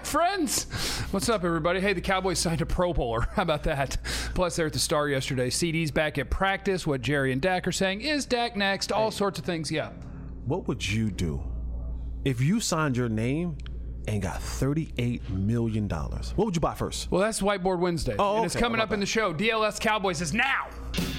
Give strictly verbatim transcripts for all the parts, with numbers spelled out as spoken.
friends? What's up, everybody? Hey, the Cowboys signed a Pro Bowler. How about that? Plus, they're at the Star yesterday. C D's back at practice. What Jerry and Dak are saying. Is Dak next? All sorts of things. Yeah. What would you do if you signed your name and got thirty-eight million dollars? What would you buy first? Well, that's Whiteboard Wednesday. Oh, and it's okay. coming How up about in the show. D L S Cowboys is now.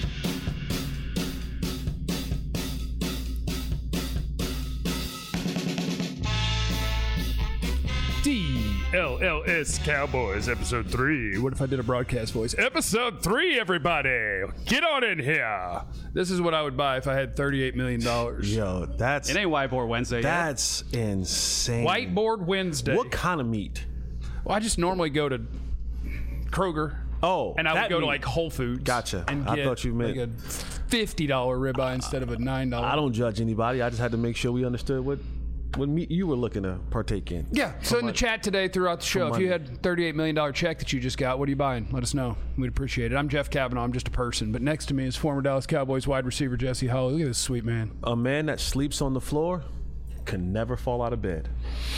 D L L S Cowboys, episode three. What if I did a broadcast voice? Episode three, everybody. Get on in here. This is what I would buy if I had thirty-eight million dollars. Yo, that's It ain't Whiteboard Wednesday. that's insane. Whiteboard Wednesday. What kind of meat? Well, I just normally go to Kroger. Oh, And I would that go to meat. like Whole Foods. Gotcha. And I get thought you meant- like a fifty dollar ribeye instead of a nine dollar. I don't judge anybody. I just had to make sure we understood what what meat you were looking to partake in. Yeah. So in the chat today throughout the show, if you Monday. had thirty-eight million dollars check that you just got, what are you buying? Let us know. We'd appreciate it. I'm Jeff Kavanaugh. I'm just a person. But next to me is former Dallas Cowboys wide receiver Jesse Holley. Look at this sweet man. A man that sleeps on the floor can never fall out of bed.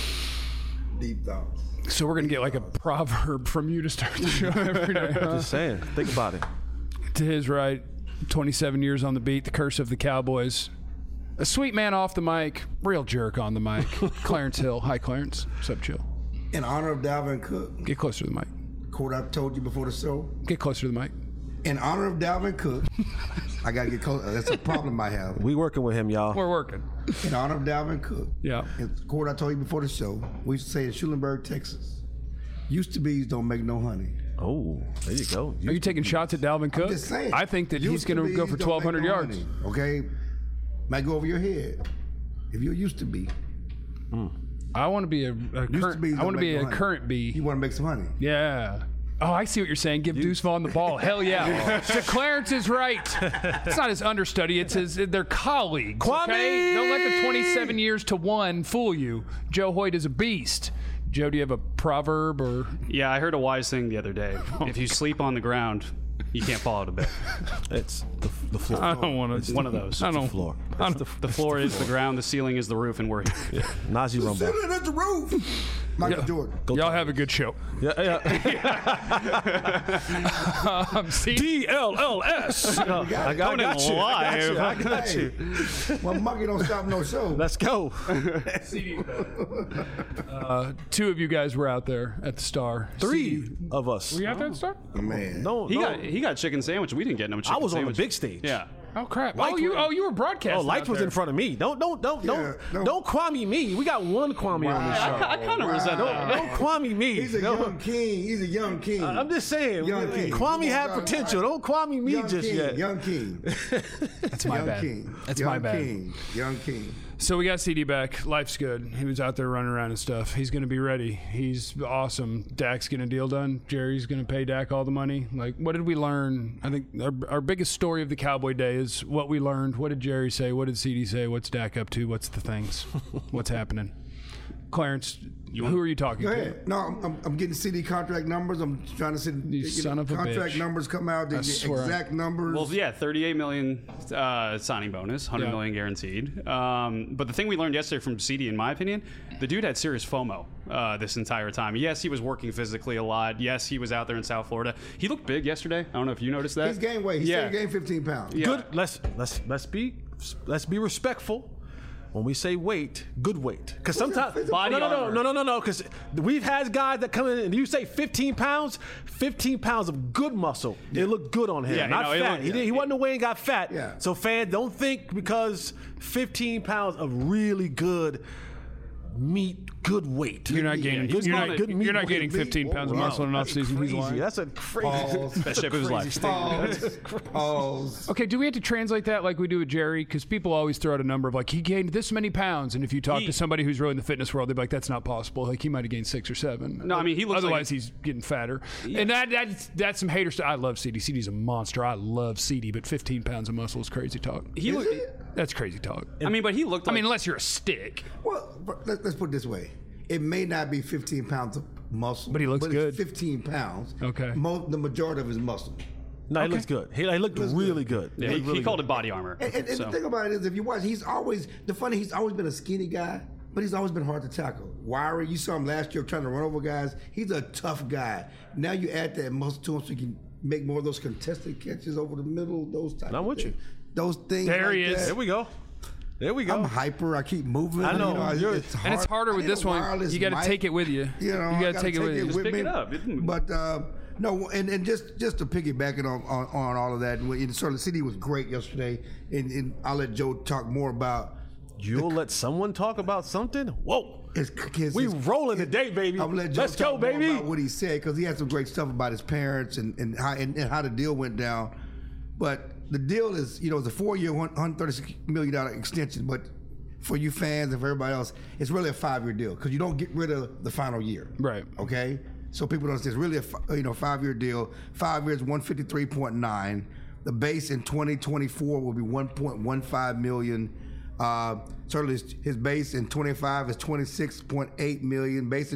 Deep thoughts. So we're going to get like a proverb from you to start the show every day. huh? Just saying. Think about it. To his right, twenty-seven years on the beat, the curse of the Cowboys. A sweet man off the mic, real jerk on the mic. Clarence Hill. Hi, Clarence. What's up, chill? In honor of Dalvin Cook, Get closer to the mic. quote I told you before the show. Get closer to the mic. In honor of Dalvin Cook, I gotta get close. That's a problem I have. We working with him, y'all. We're working. In honor of Dalvin Cook, Yeah. and quote I told you before the show. We used to say in Schulenburg, Texas, used to be's don't make no honey. Oh, there you go. Are you taking shots at Dalvin Cook? Just saying. I think that he's Used to going to be's go for don't twelve hundred make no yards. honey, okay, might go over your head if you used to be. I want to be a, a Used to current. be's I don't want to make be no a honey. current bee. You want to make some honey. Yeah. Oh, I see what you're saying. Give Deuce Vaughn the ball. Hell yeah. So Clarence is right. It's not his understudy. It's his. They're colleagues. Kwame! Okay? Don't let the twenty-seven years to one fool you. Joe Hoyt is a beast. Joe, do you have a proverb or? Yeah, I heard a wise thing the other day. If you sleep on the ground, you can't fall out of bed. It's the, the floor. I don't want to. One of those. I don't. floor. I don't The floor is the ground, the ceiling is the roof, and we're here. Najee Rumble. Sitting at the roof. Michael Jordan. Y'all have a good show. Yeah, yeah. Um, see, D L L S. I got, I got you. I got you. I got you. Well, monkey don't stop no show. Let's go. uh, two of you guys were out there at the Star. Three C D. of us. Were you out there at the Star? Man. No, He no. got he got chicken sandwich. We didn't get no chicken I was on the sandwich. big stage. Yeah. Oh crap! Lights oh, you were- oh you were broadcasting. Oh, lights out was there. in front of me. Don't don't don't Yeah, don't no. don't Kwame me. We got one Kwame on the show. I kind of resent that. Don't Kwame me. He's a No. young king. He's a young king. I'm just saying. Young king. Kwame had Young- potential. Don't Kwame me young just king, yet. Young king. That's my young bad. king. That's young my bad. King. Young king. So we got C D back. Life's good. He was out there running around and stuff. He's going to be ready. He's awesome. Dak's getting a deal done. Jerry's going to pay Dak all the money. Like, what did we learn? I think our, our biggest story of the Cowboy Day is what we learned. What did Jerry say? What did C D say? What's Dak up to? What's the things? What's happening? Clarence, who are you talking Go to? ahead. No, I'm, I'm, I'm getting C D contract numbers. I'm trying to see You son of a contract bitch. numbers come out. The I swear. exact numbers. Well, yeah, thirty-eight million uh, signing bonus, one hundred Yeah. million guaranteed. Um, but the thing we learned yesterday from C D, in my opinion, the dude had serious FOMO uh, this entire time. Yes, he was working physically a lot. Yes, he was out there in South Florida. He looked big yesterday. I don't know if you noticed that. He's gained weight. He yeah. said he gained fifteen pounds. Yeah. Good. Let's let's let's be let's be respectful. When we say weight, good weight, because sometimes physical- Body no, no, no, armor. no, no, no, no, because we've had guys that come in and you say fifteen pounds, fifteen pounds of good muscle. It looked good on him, Yeah, not no, it fat. looked- he, did, he wasn't away and got fat. Yeah. So fans, don't think because fifteen pounds of really good meat, good weight. You're not gaining. Good You're meat, not, good meat, you're not good gaining meat. fifteen pounds of Wow. muscle in an off That's season. He's crazy. lying. That's a crazy. Pause. That ship of his life. Pause. Pause. Okay, do we have to translate that like we do with Jerry? Because people always throw out a number of like he gained this many pounds, and if you talk He- to somebody who's really in the fitness world, they're like, "That's not possible." Like he might have gained six or seven. No, I mean, he looks like- Otherwise, he's getting fatter, and that that's that's some hater stuff. I love C D. C D's a monster. I love C D, but fifteen pounds of muscle is crazy talk. He looked. That's crazy talk. I mean, but he looked I like. mean, unless you're a stick. Well, but let, let's put it this way. It may not be fifteen pounds of muscle, But he looks but good. It's fifteen pounds. Okay. Mo- the majority of his muscle. No, he looks good. He, he looked Looks really good. yeah, He he, looked really he called good. it body armor. And, and, and so. the thing about it is, if you watch, he's always the funny. He's always been a skinny guy, but he's always been hard to tackle. wiry. You saw him last year trying to run over guys. He's a tough guy. Now you add that muscle to him so he can make more of those contested catches over the middle, those type I'm of with things. you. Those things There like he is. that. There we go. There we go. I'm hyper. I keep moving. I know. You know You're- it's hard. And it's harder I with need this a one. wireless You got to mic. take it with you. You know, you I got to gotta take it with you. Just pick it up. It- But uh, no, and, and just just to piggyback it on, on, on all of that, and so the city was great yesterday, and, and I'll let Joe talk more about. You'll let someone talk about something? Whoa. His, his, We his- rolling today, baby. I'm gonna let Joe Let's go, talk more baby. about what he said because he had some great stuff about his parents and and how and, and how the deal went down. But the deal is, you know, it's a four-year, one hundred thirty-six million dollars extension. But for you fans and for everybody else, it's really a five-year deal because you don't get rid of the final year. Right. Okay. So people don't understand. It's really a fi- you know five-year deal. Five years, one fifty-three point nine. The base in twenty twenty-four will be one point one five million. Uh, certainly, his, his base in twenty-five is twenty-six point eight million. Base in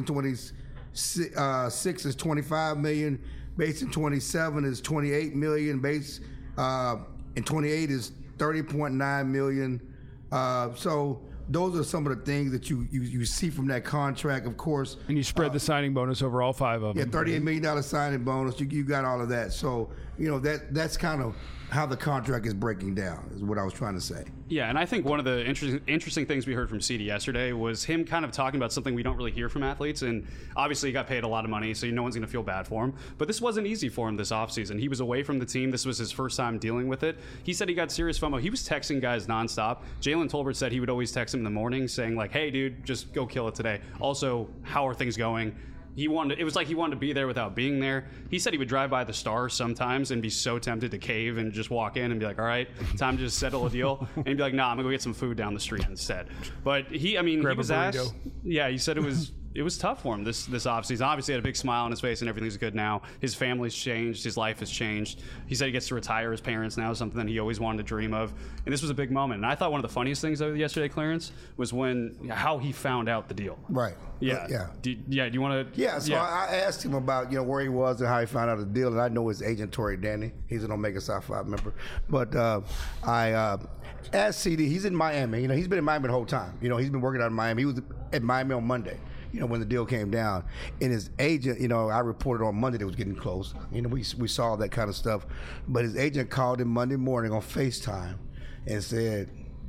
twenty-six is twenty-five million. Base in twenty-seven is twenty-eight million. Base uh, in twenty-eight is thirty point nine million. Uh, so those are some of the things that you, you, you see from that contract, of course. And you spread the signing bonus over all five of Yeah, them. thirty-eight million dollars signing bonus. You, you got all of that. So, you know, that that's kind of how the contract is breaking down, is what I was trying to say. Yeah, and I think one of the interesting interesting things we heard from C D yesterday was him kind of talking about something we don't really hear from athletes. And obviously, he got paid a lot of money, so no one's going to feel bad for him. But this wasn't easy for him this offseason. He was away from the team. This was his first time dealing with it. He said he got serious FOMO. He was texting guys nonstop. Jalen Tolbert said he would always text him in the morning saying, like, hey, dude, just go kill it today. Also, how are things going? He wanted. It was like he wanted to be there without being there. He said he would drive by the Star sometimes and be so tempted to cave and just walk in and be like, "All right, time to just settle a deal," and he'd be like, "Nah, I'm gonna go get some food down the street instead." But he, I mean, Grab he a was burrito. asked. Yeah, he said it was. It was tough for him this this offseason. Obviously, he had a big smile on his face and everything's good now. His family's changed. His life has changed. He said he gets to retire his parents now, something that he always wanted to dream of. And this was a big moment. And I thought one of the funniest things of yesterday, Clarence, was when how he found out the deal. Right. Yeah. Uh, yeah. Do, yeah. Do you want to? Yeah, so I, I asked him about, you know, where he was and how he found out the deal, and I know his agent, Tory Danny. He's an Omega Psi Phi member. But uh, I uh, asked C D, he's in Miami. You know, he's been in Miami the whole time. You know, he's been working out in Miami. He was at Miami on Monday, you know, when the deal came down. And his agent, you know, I reported on Monday that it was getting close. You know, we, we saw that kind of stuff. But his agent called him Monday morning on FaceTime and said,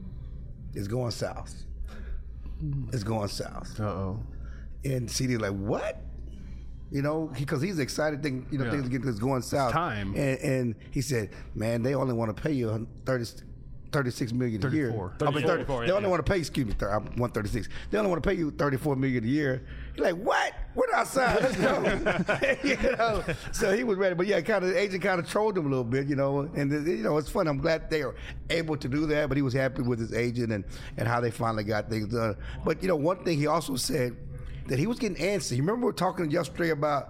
it's going south. It's going south. Uh-oh. And C D like, what? You know, because he's excited. Think, you know, Yeah. things are getting going south. time. And, and he said, man, they only want to pay you thirty, thirty-six million a year. thirty-four. I mean, thirty, thirty-four, they yeah. only want to pay. Excuse me, thirty, I'm one thirty-six. They only want to pay you thirty-four million a year. He's like, what? We're outside. Let's go. you know. So he was ready, but yeah, kind of the agent kind of trolled him a little bit, you know. And you know, it's fun. I'm glad they were able to do that. But he was happy with his agent and and how they finally got things done. But you know, one thing he also said that he was getting antsy. You remember we were talking yesterday about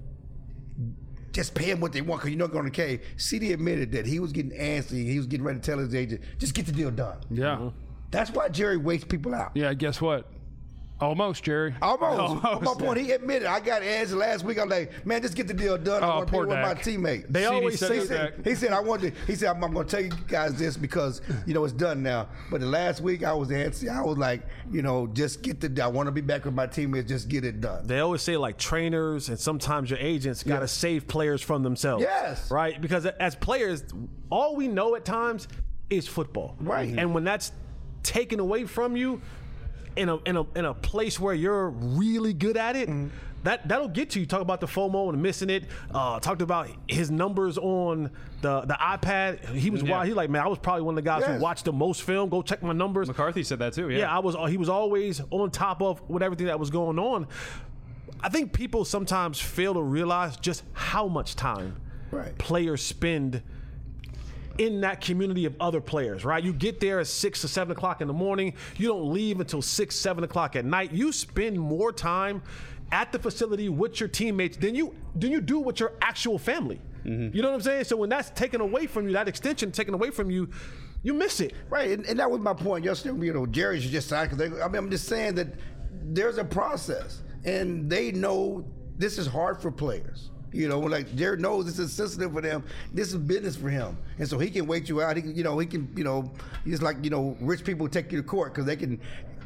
just pay him what they want because you're not going to K. C D admitted that he was getting antsy. He was getting ready to tell his agent, just get the deal done. Yeah. That's why Jerry waits people out. Yeah, guess what? Almost, Jerry. Almost. Almost. My point, he admitted, I got antsy last week. I'm like, man, just get the deal done. I Oh, want to be poor with my Dak. teammates. They C D always said say He that. that. said, he said, I wanted to, he said, I'm, I'm going to tell you guys this because, you know, it's done now. But the last week I was antsy. I was like, you know, just get the, I want to be back with my teammates. Just get it done. They always say like trainers and sometimes your agents got to Yeah. save players from themselves. Yes. Right? Because as players, all we know at times is football. Right. And when that's taken away from you in a in a in a place where you're really good at it, Mm-hmm. that that'll get to you. Talk about the FOMO and missing it. Uh, talked about his numbers on the the iPad. He was Yeah. wild. He like, man, I was probably one of the guys Yes. who watched the most film. Go check my numbers. McCarthy said that too. Yeah. Yeah, I was. He was always on top of with everything that was going on. I think people sometimes fail to realize just how much time Right. players spend in that community of other players, right? You get there at six or seven o'clock in the morning. You don't leave until six, seven o'clock at night. You spend more time at the facility with your teammates than you than you do with your actual family. You know what I'm saying? So when that's taken away from you, that extension taken away from you, you miss it. Right, and, and that was my point yesterday. You know, Jerry should just sign because I mean, I'm just saying that there's a process, and they know this is hard for players. You know, like Jerry knows this is sensitive for them. This is business for him, and so he can wait you out. He can, you know, he can, you know, he's like, you know, rich people take you to court because they can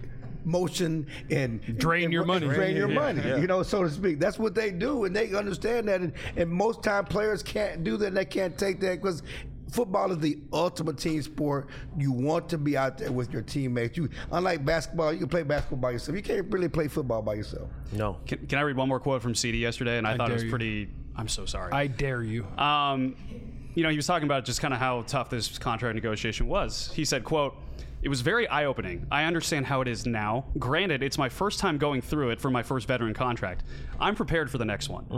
motion and Drain and, your and money. drain your Yeah. money. Yeah. You know, so to speak. That's what they do, and they understand that. And, and most time players can't do that. And they can't take that because football is the ultimate team sport. You want to be out there with your teammates. You, unlike basketball, you can play basketball by yourself. You can't really play football by yourself. No. Can, can I read one more quote from C D yesterday? And I, I thought it was dare you. pretty. I'm so sorry. I dare you. Um, you know, he was talking about just kind of how tough this contract negotiation was. He said, quote, "It was very eye-opening. I understand how it is now. Granted, it's my first time going through it for my first veteran contract. I'm prepared for the next one."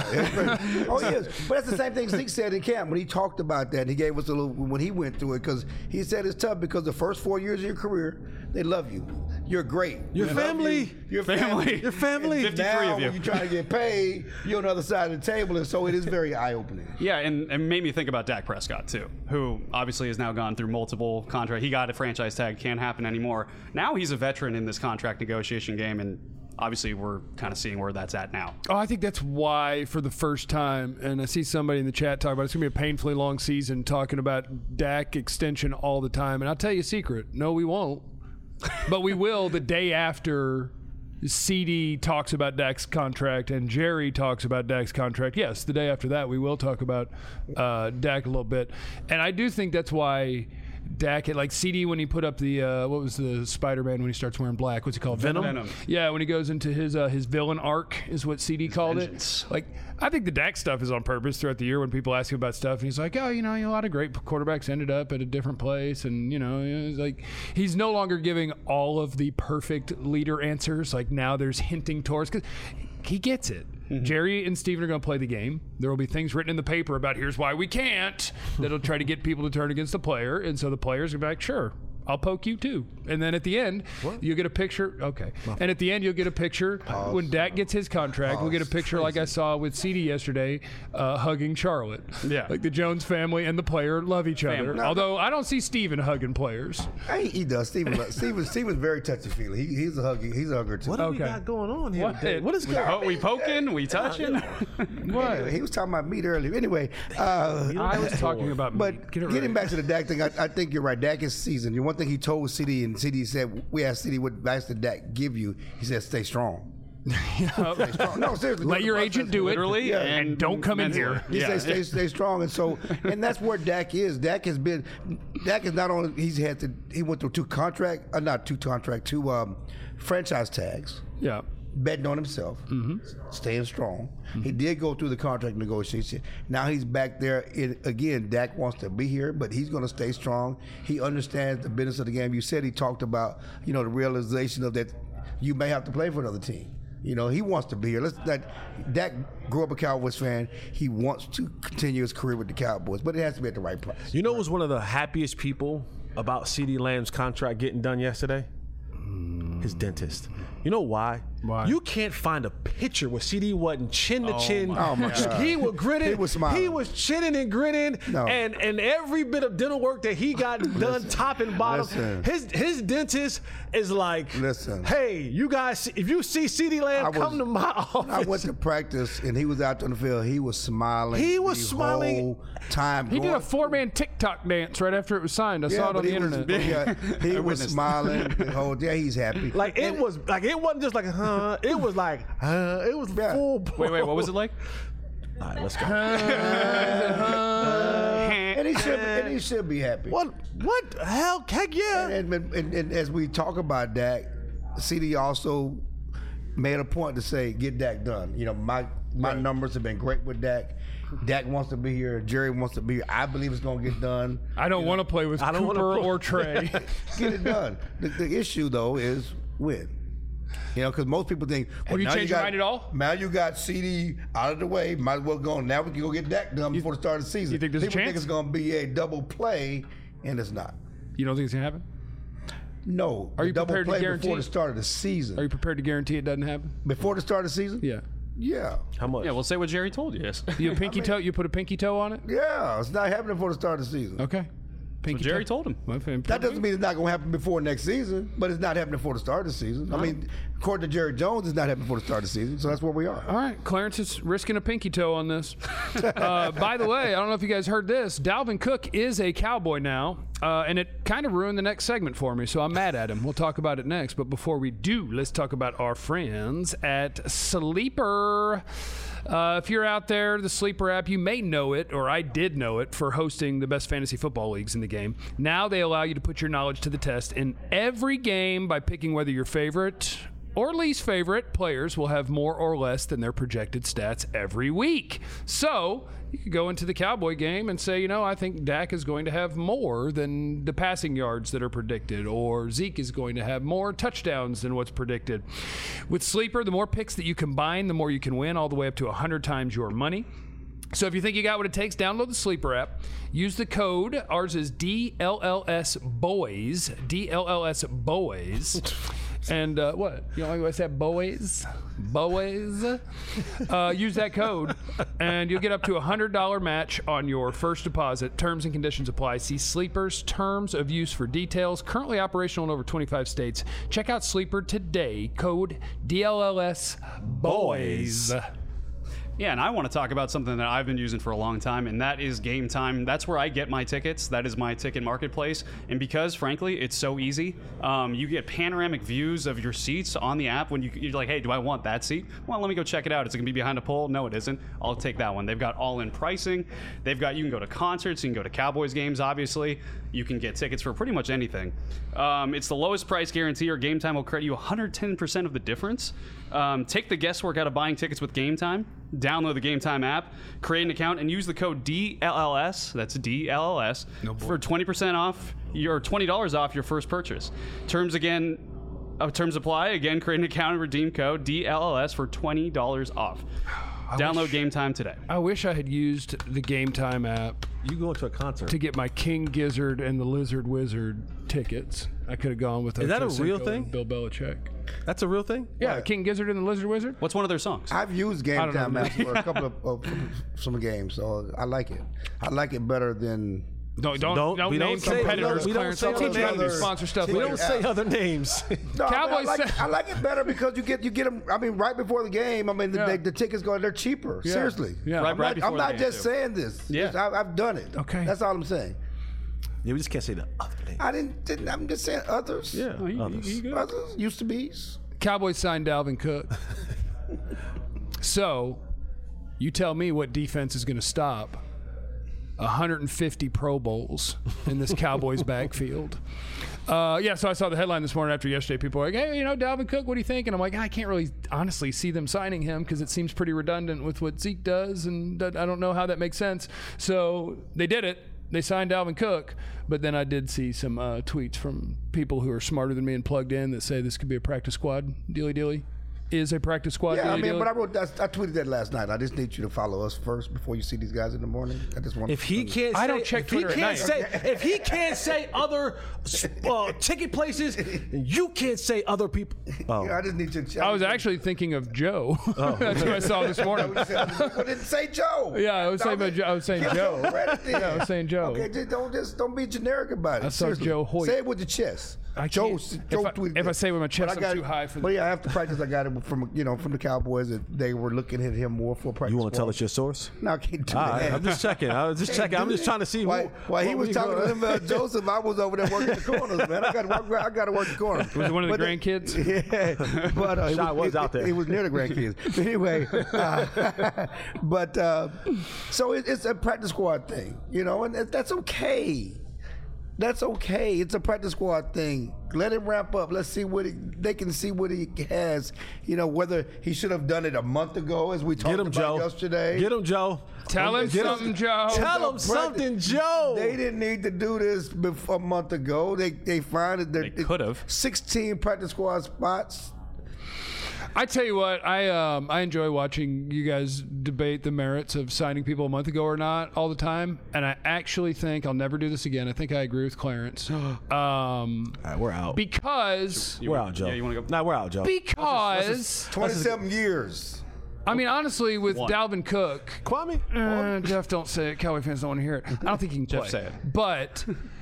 Oh, yes. But that's the same thing Zeke said in camp when he talked about that. He gave us a little, when he went through it, because he said it's tough because the first four years of your career, they love you. You're great. Your They love family. you. Your Family. family. Your family. And fifty-three now, of you. when you're trying to get paid, you're on the other side of the table, and so it is very eye-opening. Yeah, and it made me think about Dak Prescott, too, who obviously has now gone through multiple contracts. He got a franchise tag, can't happen anymore. Now he's a veteran in this contract negotiation game, and obviously we're kind of seeing where that's at now. Oh, I think that's why, for the first time, and I see somebody in the chat talk about it, it's going to be a painfully long season talking about Dak extension all the time. And I'll tell you a secret. No, we won't. But we will the day after C D talks about Dak's contract and Jerry talks about Dak's contract. Yes, the day after that, we will talk about uh, Dak a little bit. And I do think that's why Dak, like C D when he put up the, uh, what was the Spider-Man when he starts wearing black? What's he called? Venom? Venom. Yeah, when he goes into his uh, his villain arc is what C D called vengeance. it. Like, I think the Dak stuff is on purpose throughout the year when people ask him about stuff, and he's like, oh, you know, a lot of great quarterbacks ended up at a different place, and you know, it's like he's no longer giving all of the perfect leader answers. Like now, there's hinting towards because he gets it. Mm-hmm. Jerry and Steven are going to play the game. There will be things written in the paper about here's why we can't that'll try to get people to turn against the player, and so the players are going to be like, sure, I'll poke you too. And then at the end, what? you'll get a picture. Okay. And at the end, you'll get a picture Pause. when Dak gets his contract. Pause. We'll get a picture like I saw with C D yesterday, uh, hugging Charlotte. Yeah. Like the Jones family and the player love each other. Family. Although I don't see Steven hugging players. I, he does. Steven, Steven, Steven's very touchy-feely. He, he's a huggy. He's a hugger too. What do we Okay. got going on here What? today? What is going Oh, on? we poking? We touching? What? Anyway, he was talking about meat earlier. Anyway, uh, I was talking about but me. Get it getting right. back to the Dak thing, I, I think you're right. Dak is seasoned. The one thing he told C D, and C D said, we asked C D what advice did Dak give you. He said, stay strong. Stay strong. No, seriously. Let go your to the agent process. do it. Literally, Yeah. and, And don't come in mentally. here. He Yeah. said stay, stay strong, and so, and that's where Dak is. Dak has been, Dak is not only he's had to, he went through two contract, uh, not two contract, two um, franchise tags, Yeah. betting on himself, Mm-hmm. staying strong. He did go through the contract negotiation. Now he's back there. It, again, Dak wants to be here, but he's going to stay strong. He understands the business of the game. You said he talked about, you know, the realization of that you may have to play for another team. You know, he wants to be here. Let's that Dak grew up a Cowboys fan. He wants to continue his career with the Cowboys, but it has to be at the right price. You know who was one of the happiest people about C D Lamb's contract getting done yesterday? His dentist. You know why? Why? You can't find a picture where C D wasn't chin to chin. my Oh, my God. He was grinning. He was smiling. He was chinning and grinning. No. And and every bit of dental work that he got done, top and bottom. Listen. His his dentist is like, Listen. hey, you guys, if you see C D Lamb, I was- come to my office. I went to practice, and he was out on the field. He was smiling. He was the smiling. whole time. He did going a four-man TikTok dance right after it was signed. I saw it on but the he was- internet. yeah, he was witnessed. smiling the whole day. He's happy. Like it was like it wasn't just like huh. It was like huh. It was Yeah. full. Wait, wait, what was it like? All right, let's go. and he should, and he should be happy. What? What the hell? Heck yeah! And, and, and, and as we talk about Dak, C D also made a point to say, get Dak done. You know, my my numbers have been great with Dak. Dak wants to be here. Jerry wants to be here. I believe it's going to get done. I don't want to play with I don't wanna Cooper play- or Trey. Get it done. The, the issue, though, is win. You know, because most people think, well, Have you now changed your got, mind at all? Now you got C D out of the way. Might as well go on. Now we can go get Dak done before the start of the season. you think there's a people think chance? it's going to be a double play, and it's not. You don't think it's gonna happen? No. Are the you double prepared to play guarantee before it? the start of the season? Are you prepared to guarantee it doesn't happen? Before the start of the season? Yeah. Yeah. How much? Yeah, we'll say what Jerry told you. Yes. You a pinky toe? You put a pinky toe on it? Yeah. It's not happening before the start of the season. Okay. Pinky Jerry toe. told him. My fan- That doesn't mean it's not going to happen before next season, but it's not happening before the start of the season. I mean, according to Jerry Jones, it's not happening before the start of the season, so that's where we are. All right, Clarence is risking a pinky toe on this. uh, by the way, I don't know if you guys heard this. Dalvin Cook is a Cowboy now, uh, and it kind of ruined the next segment for me, so I'm mad at him. We'll talk about it next. But before we do, let's talk about our friends at Sleeper. Uh, if you're out there, the Sleeper app, you may know it, or I did know it, for hosting the best fantasy football leagues in the game. Now they allow you to put your knowledge to the test in every game by picking whether your favorite or least favorite players will have more or less than their projected stats every week. So you could go into the Cowboy game and say, you know, I think Dak is going to have more than the passing yards that are predicted, or Zeke is going to have more touchdowns than what's predicted. With Sleeper, the more picks that you combine, the more you can win, all the way up to one hundred times your money. So if you think you got what it takes, download the Sleeper app. Use the code. Ours is D L L S Boys. D L L S Boys. And uh, what? You know, I said boys? Boys? Uh, use that code, and you'll get up to a one hundred dollars match on your first deposit. Terms and conditions apply. See Sleeper's terms of use for details. Currently operational in over twenty-five states. Check out Sleeper today. Code D L L S Boys. Yeah, and I want to talk about something that I've been using for a long time, and that is Game Time. That's where I get my tickets. That is my ticket marketplace. And because, frankly, it's so easy, um, you get panoramic views of your seats on the app when you, you're like, hey, do I want that seat? Well, let me go check it out. Is it going to be behind a pole? No, it isn't. I'll take that one. They've got all-in pricing. They've got, you can go to concerts. You can go to Cowboys games, obviously. You can get tickets for pretty much anything. Um, it's the lowest price guarantee, or Game Time will credit you one hundred ten percent of the difference. Um, take the guesswork out of buying tickets with Game Time. Download the Game Time app, create an account, and use the code D L L S, that's D L L S, no for twenty percent off, your twenty dollars off your first purchase. Terms again, uh, terms apply. Again, create an account and redeem code D L L S for twenty dollars off. I Download wish, Game Time today. I wish I had used the Game Time app. You go to a concert to get my King Gizzard and the Lizard Wizard tickets. I could have gone with. Is that a real thing? Bill Belichick. That's a real thing? Yeah, what? King Gizzard and the Lizard Wizard. What's one of their songs? I've used Game Time app for a couple of, of some games, so I like it. I like it better than. Don't don't don't, don't we name don't competitors. We don't say, we don't say other names. Sponsor stuff. We later. don't say other names. No, Cowboys. I, mean, I, like, I like it better because you get you get them. I mean, right before the game. I mean, the, Yeah. the, the tickets go. They're cheaper. Yeah. Seriously. Yeah. Right, I'm right not, before I'm the not game, just too. saying this. Yeah. Just, I, I've done it. Okay. That's all I'm saying. Yeah, we just can't say the other names. I didn't. didn't I'm just saying others. Yeah, Oh, you- others. you good? Others used to be's. Cowboys signed Dalvin Cook. So, you tell me what defense is going to stop one hundred fifty Pro Bowls in this Cowboys backfield. Uh, yeah, so I saw the headline this morning after yesterday. People were like, hey, you know, Dalvin Cook, what do you think? And I'm like, I can't really honestly see them signing him because it seems pretty redundant with what Zeke does, and I don't know how that makes sense. So they did it. They signed Dalvin Cook, but then I did see some uh, tweets from people who are smarter than me and plugged in that say this could be a practice squad. Dealy dealy. Is a practice squad. Yeah, I dealy mean, dealy. but I wrote that. I tweeted that last night. I just need you to follow us first before you see these guys in the morning. I just want. If he can't, say, I don't check if Twitter at he can't night. say, if he can't say other uh, ticket places, then you can't say other people. Oh, I just need you. To, I was actually thinking of Joe. That's what I saw this morning. I didn't say Joe. Yeah, I was saying about Joe. I was saying Give Joe. some credit then. Yeah, I was saying Joe. Okay, just don't just don't be generic about it. I saw Seriously. Joe Hoyt. Say it with your chest. I Joe, can't- Joe if I- tweeted if I it. say it with my chest, But I I'm got too it- high for But the- yeah, after practice, I got it from you know from the Cowboys that they were looking at him more for practice. you want to tell squad. us your source? No, I can't do All that. right, I'm just checking. I was just checking. I'm just trying to see. While, who, while he what was we talking go- to him about Joseph, I was over there working the corners, man. I got to work. I got to work the corners. Was it one of the But grandkids? Yeah, but uh, it Shot was it, out there. It, was near the grandkids. But anyway, uh, but uh, so it, it's a practice squad thing, you know, and that's okay. That's okay. It's a practice squad thing. Let him ramp up. Let's see what he, they can see what he has. You know, whether he should have done it a month ago, as we talked Get him, about Joe. yesterday. Get him, Joe. Tell him Get something, Joe. Tell him something, Joe. They didn't need to do this before a month ago. They they find that They could've. sixteen practice squad spots. I tell you what, I um, I enjoy watching you guys debate the merits of signing people a month ago or not all the time, and I actually think I'll never do this again. I think I agree with Clarence. Um, All right, we're out. because You we're wanna- out, Joe. Yeah, you want to go? Nah, we're out, Joe. because Twenty-seven years. I mean honestly, with One. Dalvin Cook, Kwame. uh, Jeff, don't say it. Cowboy fans don't want to hear it. I don't think he can Jeff, play. say it. But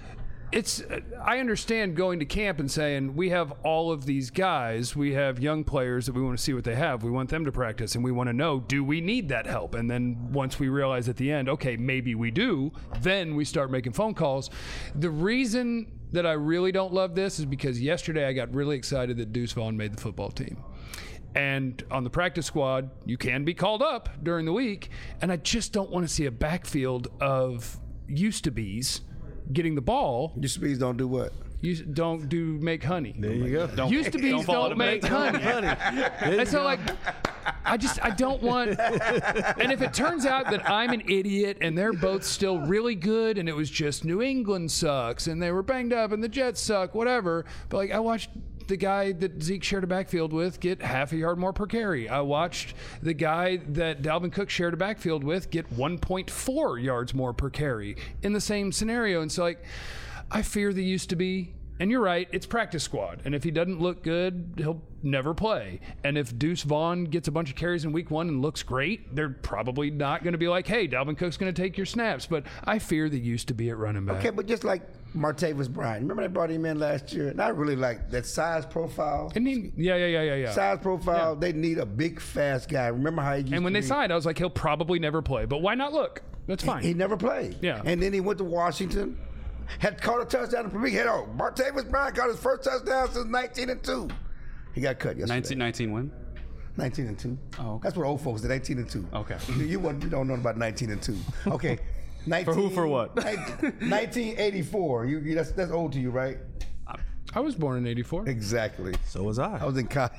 it's I understand going to camp and saying we have all of these guys, we have young players that we want to see what they have, we want them to practice, and we want to know, do we need that help? And then once we realize at the end, okay, maybe we do, then we start making phone calls. The reason that I really don't love this is because yesterday I got really excited that Deuce Vaughn made the football team. And on the practice squad, you can be called up during the week, and I just don't want to see a backfield of used-to-be's getting the ball. Your speeds don't do what? You don't do make honey. There you go. Don't, Used to be don't, follow don't to make honey. And so like, I just I don't want. And if it turns out that I'm an idiot and they're both still really good, and it was just New England sucks and they were banged up and the Jets suck, whatever. But like I watched the guy that Zeke shared a backfield with get half a yard more per carry. I watched the guy that Dalvin Cook shared a backfield with get one point four yards more per carry in the same scenario. And so like, I fear the used to be, and you're right, it's practice squad. And if he doesn't look good, he'll never play. And if Deuce Vaughn gets a bunch of carries in week one and looks great, they're probably not going to be like, hey, Dalvin Cook's going to take your snaps. But I fear the used to be at running back. Okay, but just like Martavis Bryant, remember they brought him in last year? And I really like that size profile. And he, yeah, yeah, yeah, yeah, yeah. Size profile, Yeah. they need a big, fast guy. Remember how he used And when to they be? signed, I was like, he'll probably never play. But why not look? That's fine. He never played. Yeah. And then he went to Washington, had caught a touchdown in the big head. Oh, Martavis Bryant got his first touchdown since nineteen and two. He got cut yesterday. nineteen nineteen win? nineteen and two. Oh, okay. That's what old folks did, eighteen and two. Okay. You, you, wouldn't- you don't know about nineteen and two. Okay. nineteen, who, for what? nineteen eighty-four. You, you, that's, that's old to you, right? I was born in eighty-four. Exactly. So was I. I was in college.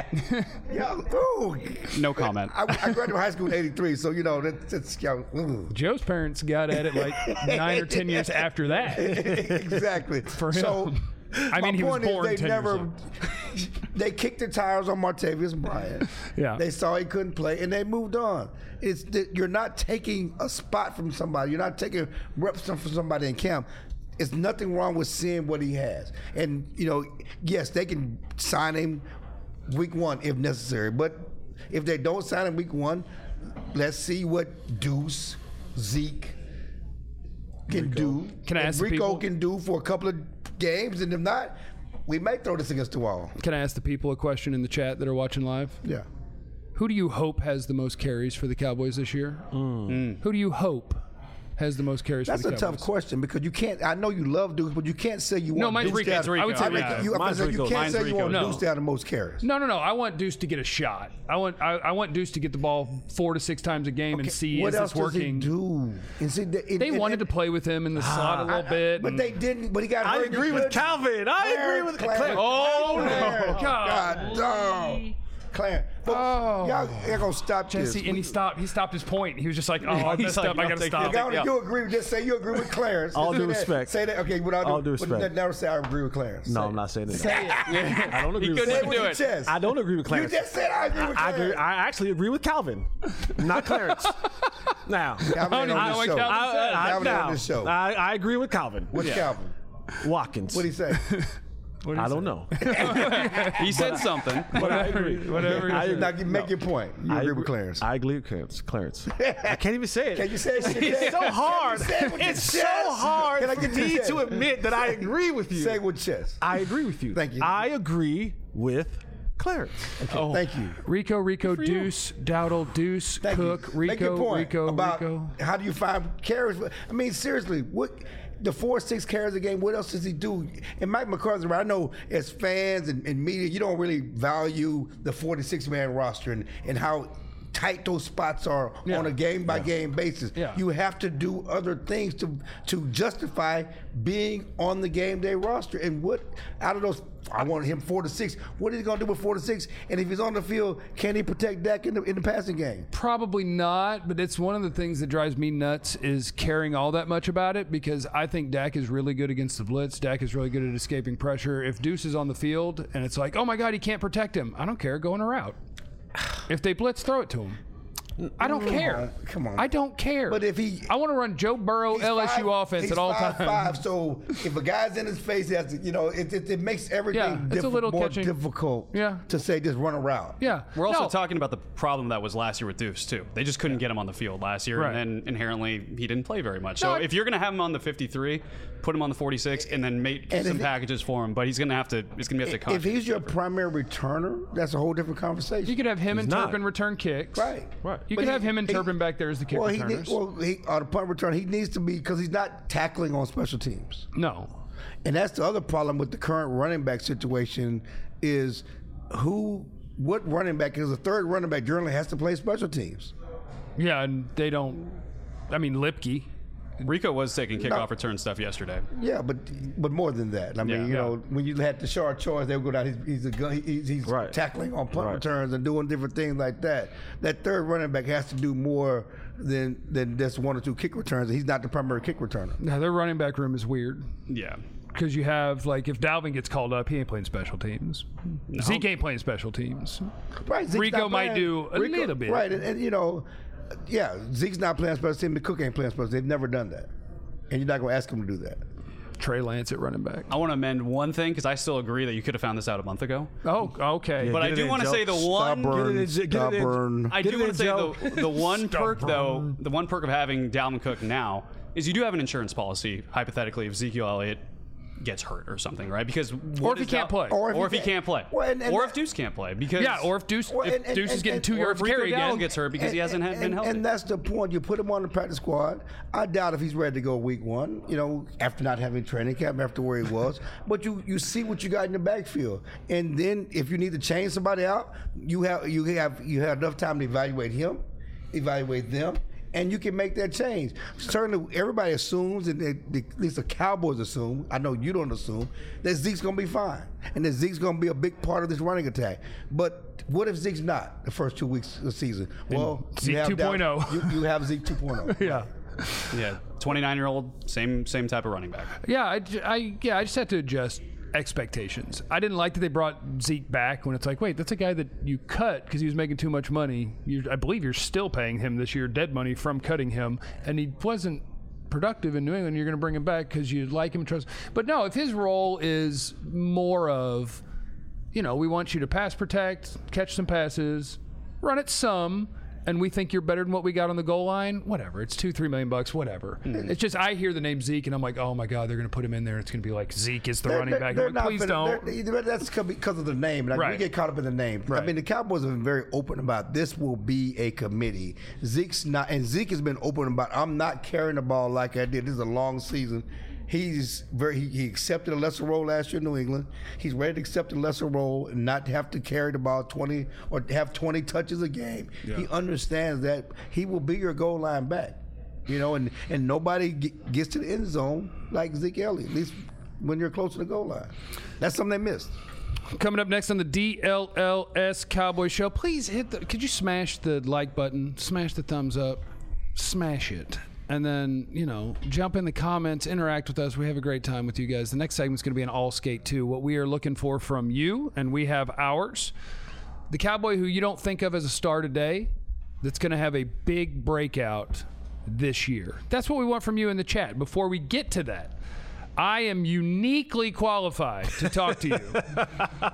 Yo, ooh. No comment. I, I graduated high school in eighty-three, so you know that's, that's yo, ooh. Joe's parents got at it like nine or ten years after that. Exactly. For him. So, I mean, my he was point born is they ten years never. old. They kicked their tires on Martavis Bryant. Yeah. They saw he couldn't play, and they moved on. It's that you're not taking a spot from somebody. You're not taking reps from somebody in camp. It's nothing wrong with seeing what he has. And, you know, yes, they can sign him week one if necessary. But if they don't sign him week one, let's see what Deuce, Zeke can Rico. do. Can I and ask the Rico people- can do for a couple of games. And if not, we may throw this against the wall. Can I ask the people a question in the chat that are watching live? Yeah. Who do you hope has the most carries for the Cowboys this year? Mm. Who do you hope has the most carries That's for the a Cowboys? tough question because you can't. I know you love Deuce, but you can't say you No, want mine's Deuce Rico. to It's have- Rico. I would say I mean, Rico. you, I Mine's said you Rico. can't Mine's say you Rico. want No. Deuce to have the most carries. No, no, no. I want Deuce to get a shot. I want I, I want Deuce to get the ball four to six times a game and see what is else this working. does he do? And see, the, and, They and, wanted and, to play with him in the slot a little bit. but and- they didn't. But he got. I hurt. agree with Calvin. I agree with Clarence. Clarence. Oh, no. Clarence. God. God, dog. Clarence. But Oh. y'all, y'all gonna stop Jesse, this. and he stopped. He stopped his point. He was just like, "Oh, I messed up. I gotta stop." Y'all, Yeah. you agree? Just say you agree with Clarence. All Just due say that. respect. Say that. Okay. Without All due but respect. Never say I agree with Clarence. No, Say I'm it. not saying that. Say it. I don't agree He with couldn't Say it Clarence. with do your it. chest. I don't agree with You Clarence. just said I agree with I Clarence. agree. I actually agree with Calvin, not Clarence. Now, Calvin ain't I on don't this know show. what Calvin I, said. I, Calvin now, on this show. I, I agree with Calvin. What's Calvin? Watkins. What'd he say? I don't know. He said something. But I agree. Whatever. I he agree. Now, you make your point. You I agree with Clarence. I agree with Clarence. Clarence. I can't even say it. Can you say it? It's so hard. Say it with your It's so chest. hard Can I for get your me chest? to admit that I agree with you. Say it with chest. I agree with you. Thank you. I agree with Clarence. Okay, Thank you. Rico, Rico, for you. Deuce, Dowdle, Deuce, Thank Cook, you. Make your Rico, point Rico, about Rico. how do you find carries? I mean, seriously, what the four six carries a game? What else does he do? And Mike McCarthy, I know as fans and, and media, you don't really value the forty-six man roster and, and how tight those spots are Yeah. on a game by game basis. Yeah. You have to do other things to to justify being on the game day roster. And what out of those, I wanted him four to six. What is he gonna do with four to six? And if he's on the field, can he protect Dak in the in the passing game? Probably not, but it's one of the things that drives me nuts is caring all that much about it because I think Dak is really good against the blitz. Dak is really good at escaping pressure. If Deuce is on the field and it's like, oh my God, he can't protect him, I don't care. Go on a route. If they blitz, throw it to him. I don't care. Come on. I don't care. But if he- I want to run Joe Burrow He's L S U five- offense he's at all five, times. Five, so if a guy's in his face, he has to, you know, it, it, it makes everything Yeah, it's a diffi- little more catching- difficult Yeah. to say just run around. Yeah. We're also No. talking about the problem that was last year with Deuce too. They just couldn't get him on the field last year, Right. and then inherently he didn't play very much. So No, I- if you're going to have him on the fifty-three, put him on the forty-six, and then make And some if it- packages for him. But he's going to have to. It's going to be up to If he's your contract. primary returner, that's a whole different conversation. You could have him He's and not. Turpin return kicks. Right. Right. You But could he- have him and he- Turpin back there as the kick well, he returners. need, well, he, on the punt return, he needs to be because he's not tackling on special teams. no. And that's the other problem with the current running back situation is who, what running back is a third running back generally has to play special teams. Yeah, and they don't. I mean, Lipke. Rico was taking kickoff return stuff yesterday. Yeah, but but more than that. I mean, Yeah. you Yeah. know, when you had the short choice, they would go down. He's, he's a gun. He's, he's Right. tackling on punt Right. returns and doing different things like that. That third running back has to do more than than just one or two kick returns. He's not the primary kick returner. Now, their running back room is weird Yeah. because you have, like, if Dalvin gets called up, he ain't playing special teams. Zeke ain't playing special teams. Right. Zeke's Rico not might playing- do a little bit. Right, and, and you know, yeah, Zeke's not playing special teams. Cook ain't playing special teams. They've never done that, and you're not going to ask him to do that. Trey Lance at running back. I want to amend one thing because I still agree that you could have found this out a month ago. Oh, okay. But Get I it do in, want to Joe. say the one. Stubborn, Get it in, get it in. stubborn. I Get do it want in, to say Joe. the, the one perk though, the one perk of having Dalvin Cook now is you do have an insurance policy. Hypothetically, if Ezekiel Elliott gets hurt or something, right? Because Or what if he is can't Dal- play. or if, he can't play, Well, and- and or that- if Deuce can't play, because Yeah, or if Deuce, Well, if and- and- Deuce is and- getting and- two or yards if Rico carry Dowdle again. gets hurt because he hasn't had, been and, healthy. and that's the point. You put him on the practice squad. I doubt if he's ready to go week one, you know, after not having training camp, after where he was. But you you see what you got in the backfield. And then if you need to change somebody out, you have you have you have enough time to evaluate him, evaluate them, and you can make that change. Certainly everybody assumes, and they, they, at least the Cowboys assume, I know you don't assume, that Zeke's gonna be fine. And that Zeke's gonna be a big part of this running attack. But what if Zeke's not the first two weeks of the season? Well, Zeke you have two point oh. doubt- You, you have Zeke two point oh. Yeah. yeah, twenty-nine year old, same same type of running back. Yeah, I, j- I- yeah, I just had to adjust expectations. I didn't like that they brought Zeke back when it's like, wait, that's a guy that you cut because he was making too much money. You, I believe you're still paying him this year dead money from cutting him, and he wasn't productive in New England. You're going to bring him back because you like him and trust. But no, if his role is more of, you know, we want you to pass protect, catch some passes, run it some, and we think you're better than what we got on the goal line, whatever. It's two, three million bucks, whatever. Mm-hmm. It's just I hear the name Zeke and I'm like, oh my God, they're going to put him in there. It's going to be like Zeke is the They're- running they're- back. they're I'm like, not please finna- don't. they're- they're- That's because of the name. Like, Right. We get caught up in the name. I Right. mean, the Cowboys have been very open about this will be a committee. Zeke's not, and Zeke has been open about I'm not carrying the ball like I did. This is a long season. He's very. He, he accepted a lesser role last year in New England. He's ready to accept a lesser role and not have to carry the ball twenty or have twenty touches a game. He understands that he will be your goal line back. You know, and and nobody ge- gets to the end zone like Zeke Elliott. At least when you're close to the goal line. That's something they missed. Coming up next on the D L L S Cowboy Show, please hit the. Could you smash the like button? Smash the thumbs up. Smash it. And then, you know, jump in the comments, interact with us. We have a great time with you guys. The next segment's going to be an all skate two. What we are looking for from you, and we have ours. The Cowboy who you don't think of as a star today, that's going to have a big breakout this year. That's what we want from you in the chat. Before we get to that, I am uniquely qualified to talk to you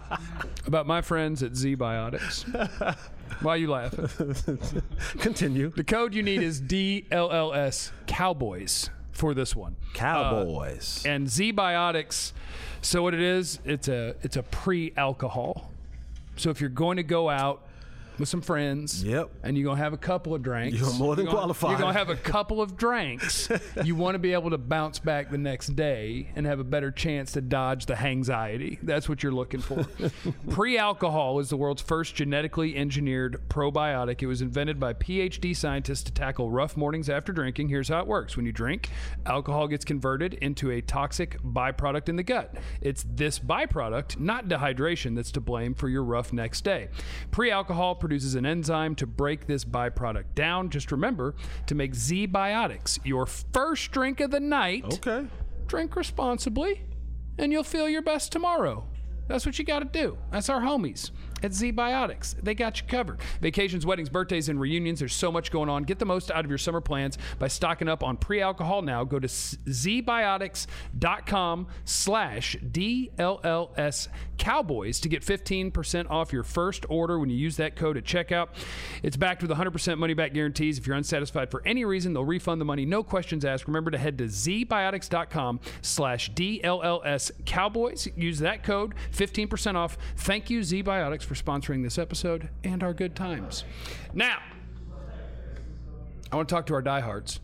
about my friends at Z Biotics. Why are you laughing? Continue. The code you need is D L L S Cowboys for this one. Cowboys. Uh, and Z Biotics, so what it is, it's a it's a pre-alcohol. So if you're going to go out with some friends, Yep. and you're going to have a couple of drinks. You're more than gonna- qualified. You're going to have a couple of drinks. You want to be able to bounce back the next day and have a better chance to dodge the hangxiety. That's what you're looking for. Pre-alcohol is the world's first genetically engineered probiotic. It was invented by P H D scientists to tackle rough mornings after drinking. Here's how it works. When you drink, alcohol gets converted into a toxic byproduct in the gut. It's this byproduct, not dehydration, that's to blame for your rough next day. Pre-alcohol produces an enzyme to break this byproduct down. Just remember to make Z Biotics your first drink of the night. Okay. Drink responsibly, and you'll feel your best tomorrow. That's what you got to do. That's our homies at Z-Biotics. They got you covered. Vacations, weddings, birthdays, and reunions. There's so much going on. Get the most out of your summer plans by stocking up on pre-alcohol now. Go to zbiotics.com slash DLLS Cowboys to get fifteen percent off your first order when you use that code at checkout. It's backed with one hundred percent money-back guarantees. If you're unsatisfied for any reason, they'll refund the money. No questions asked. Remember to head to zbiotics.com slash DLLS Cowboys. Use that code, fifteen percent off. Thank you, Z-Biotics, for sponsoring this episode and our good times. Now, I want to talk to our diehards.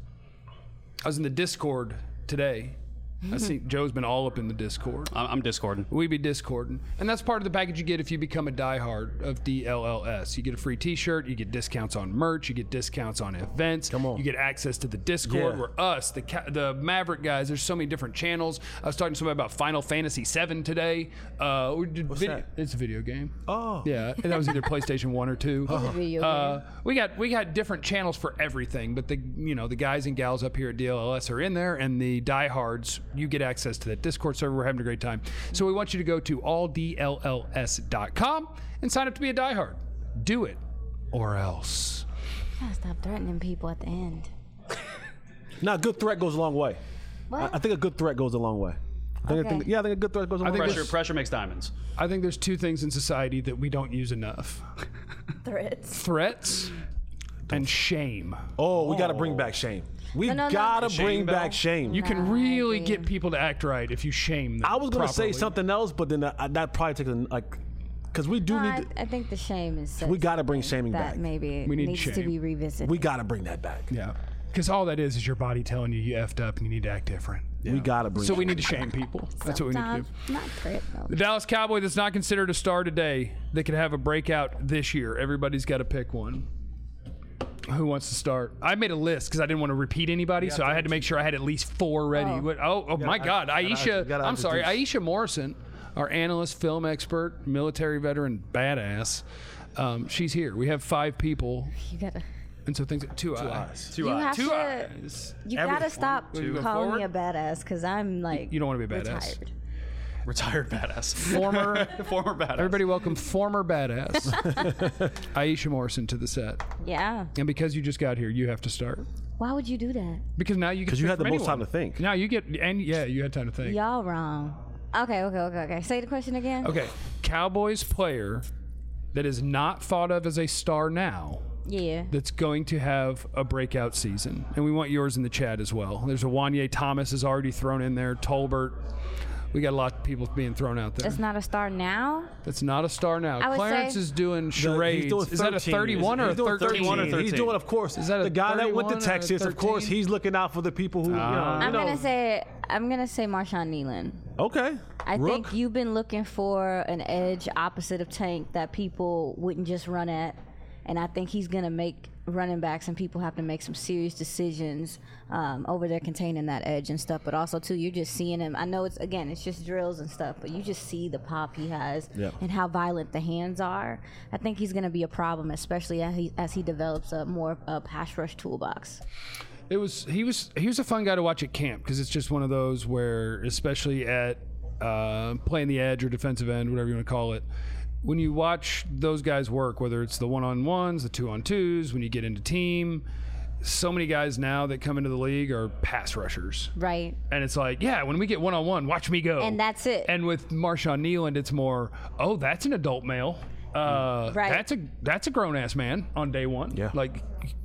I was in the Discord today. I see Joe's been all up in the Discord. I'm I'm discording. We be discording. And that's part of the package you get if you become a diehard of D L L S. You get a free t-shirt, you get discounts on merch, you get discounts on events. Come on. You get access to the Discord Yeah. where us, the ca- the Maverick guys, there's so many different channels. I was talking to somebody about Final Fantasy seven today. Uh, we did What's video- that? It's a video game. Oh. Yeah, and that was either PlayStation one or two. It's a video Uh, game. we got we got different channels for everything, but the you know the guys and gals up here at D L L S are in there, and the diehards, you get access to that Discord server. We're having a great time. So we want you to go to all D L L S dot com and sign up to be a diehard. Do it, or else. Gotta stop threatening people at the end. Now, a good threat goes a long way. What? I, I think a good threat goes a long way. I think, I think, Okay. yeah, I think a good threat goes a long think way. Pressure pressure makes diamonds. I think there's two things in society that we don't use enough: Threats. threats and shame. Oh, we got to bring back shame. We No, no, no. gotta Shame bring bell? back shame. You can Nah, really I get agree. people to act right if you shame them. I was gonna properly. say something else, but then that, that probably takes a, like, because we do No, need. I, To, I think the shame is. we gotta bring shaming that back. maybe We need needs to shame. be revisited. we gotta bring that back. Yeah, because all that is is your body telling you you effed up and you need to act different. We gotta bring. So that we need to shame people. That's what we need to do. Sometimes, not threat though. The Dallas Cowboy that's not considered a star today, that could have a breakout this year. Everybody's got to pick one. Who wants to start? I made a list because I didn't want to repeat anybody, so I had to make sure I had at least four ready. Oh. What- Oh, oh, my God. gotta- Aisha, gotta I'm sorry, introduce. Aisha Morrison, our analyst, film expert, military veteran, badass. Um, she's here. We have five people, You gotta. and so things. Two, eyes. eyes. Two You eyes. have Two to. eyes. You Every- gotta stop Will you go calling forward? me a badass because I'm like. You don't want to be a badass. Retired. Retired badass. Former. Former badass. Everybody welcome former badass Aisha Morrison to the set. Yeah. And because you just got here, you have to start. Why would you do that? Because now you get Because you pick had the from most anyone. time to think. Now you get, and yeah, you had time to think. Y'all wrong. Okay, okay, okay, okay. Say the question again. Okay, Cowboys player that is not thought of as a star now, Yeah. that's going to have a breakout season. And we want yours in the chat as well. There's a Wanye Thomas is already thrown in there, Tolbert. We got a lot of people being thrown out there. That's not a star now. That's not a star now. I would Clarence say- is doing The- charades. he's doing Is that a thirteen. thirty-one or a He's doing thirteen? thirty-one or He's thirteen. doing, of course. Is that a the guy that went to thirty-one or a Texas? Of course, thirteen? he's looking out for the people who. Ah. you know, I'm you know. gonna say. I'm gonna say Marshawn Nealon. Okay. I Rook. think you've been looking for an edge opposite of Tank that people wouldn't just run at, and I think he's gonna make running backs and people have to make some serious decisions um, over there containing that edge and stuff. But also too, you're just seeing him. I know it's again, it's just drills and stuff, but you just see the pop he has Yeah. and how violent the hands are. I think he's gonna be a problem, especially as he as he develops a more uh, pass rush toolbox. It was he was he was a fun guy to watch at camp because it's just one of those where, especially at uh, playing the edge or defensive end, whatever you want to call it, when you watch those guys work, whether it's the one-on-ones, the two-on-twos, when you get into team, so many guys now that come into the league are pass rushers. Right. And it's like, yeah, when we get one-on-one, watch me go. And that's it. And with Marshawn Nealon, it's more, oh, that's an adult male. Uh, Right. That's a that's a grown ass man on day one. Yeah. Like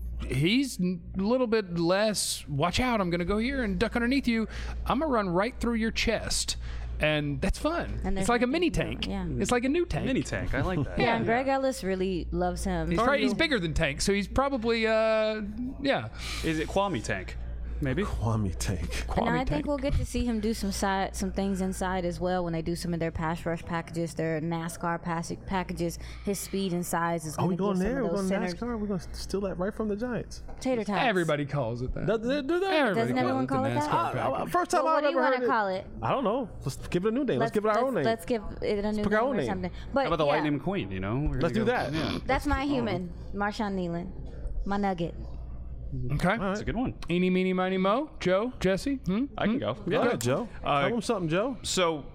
he's a little bit less. Watch out! I'm gonna go here and duck underneath you. I'm gonna run right through your chest, and that's fun. And It's there's like a nothing mini you can tank. do. Yeah. It's like a new tank. Mini tank. I like that. Yeah, and Greg Ellis really loves him. He's, probably, he's bigger than Tank, so he's probably uh yeah. Is it Kwame tank? Maybe. Kwame Tank. And I Kwame think Tank. we'll get to see him do some side, some things inside as well when they do some of their pass rush packages, their NASCAR pass- packages. His speed and size is Are going we to going get some there? of We're those going centers. NASCAR. We're going to steal that right from the Giants. Tater tots. Everybody calls it that. Do they do that? Everybody Doesn't everyone calls call it the that? NASCAR Uh, uh, package. First time Well, what I've do you ever want heard to it. call it? I don't know. Let's give it a new name. Let's, give it our let's, own name. Let's give it a new pick name our own or name. something. But How about the yeah, Lightning McQueen? You know. We're Let's gonna do go- that. Yeah. that's my human, Marshawn Nealon, my nugget. Okay. That's a good one. Eeny, meeny, miny, mo. Joe, Jesse. Hmm? I can go. Go Yeah. ahead, Joe. Uh, Tell them something, Joe. So,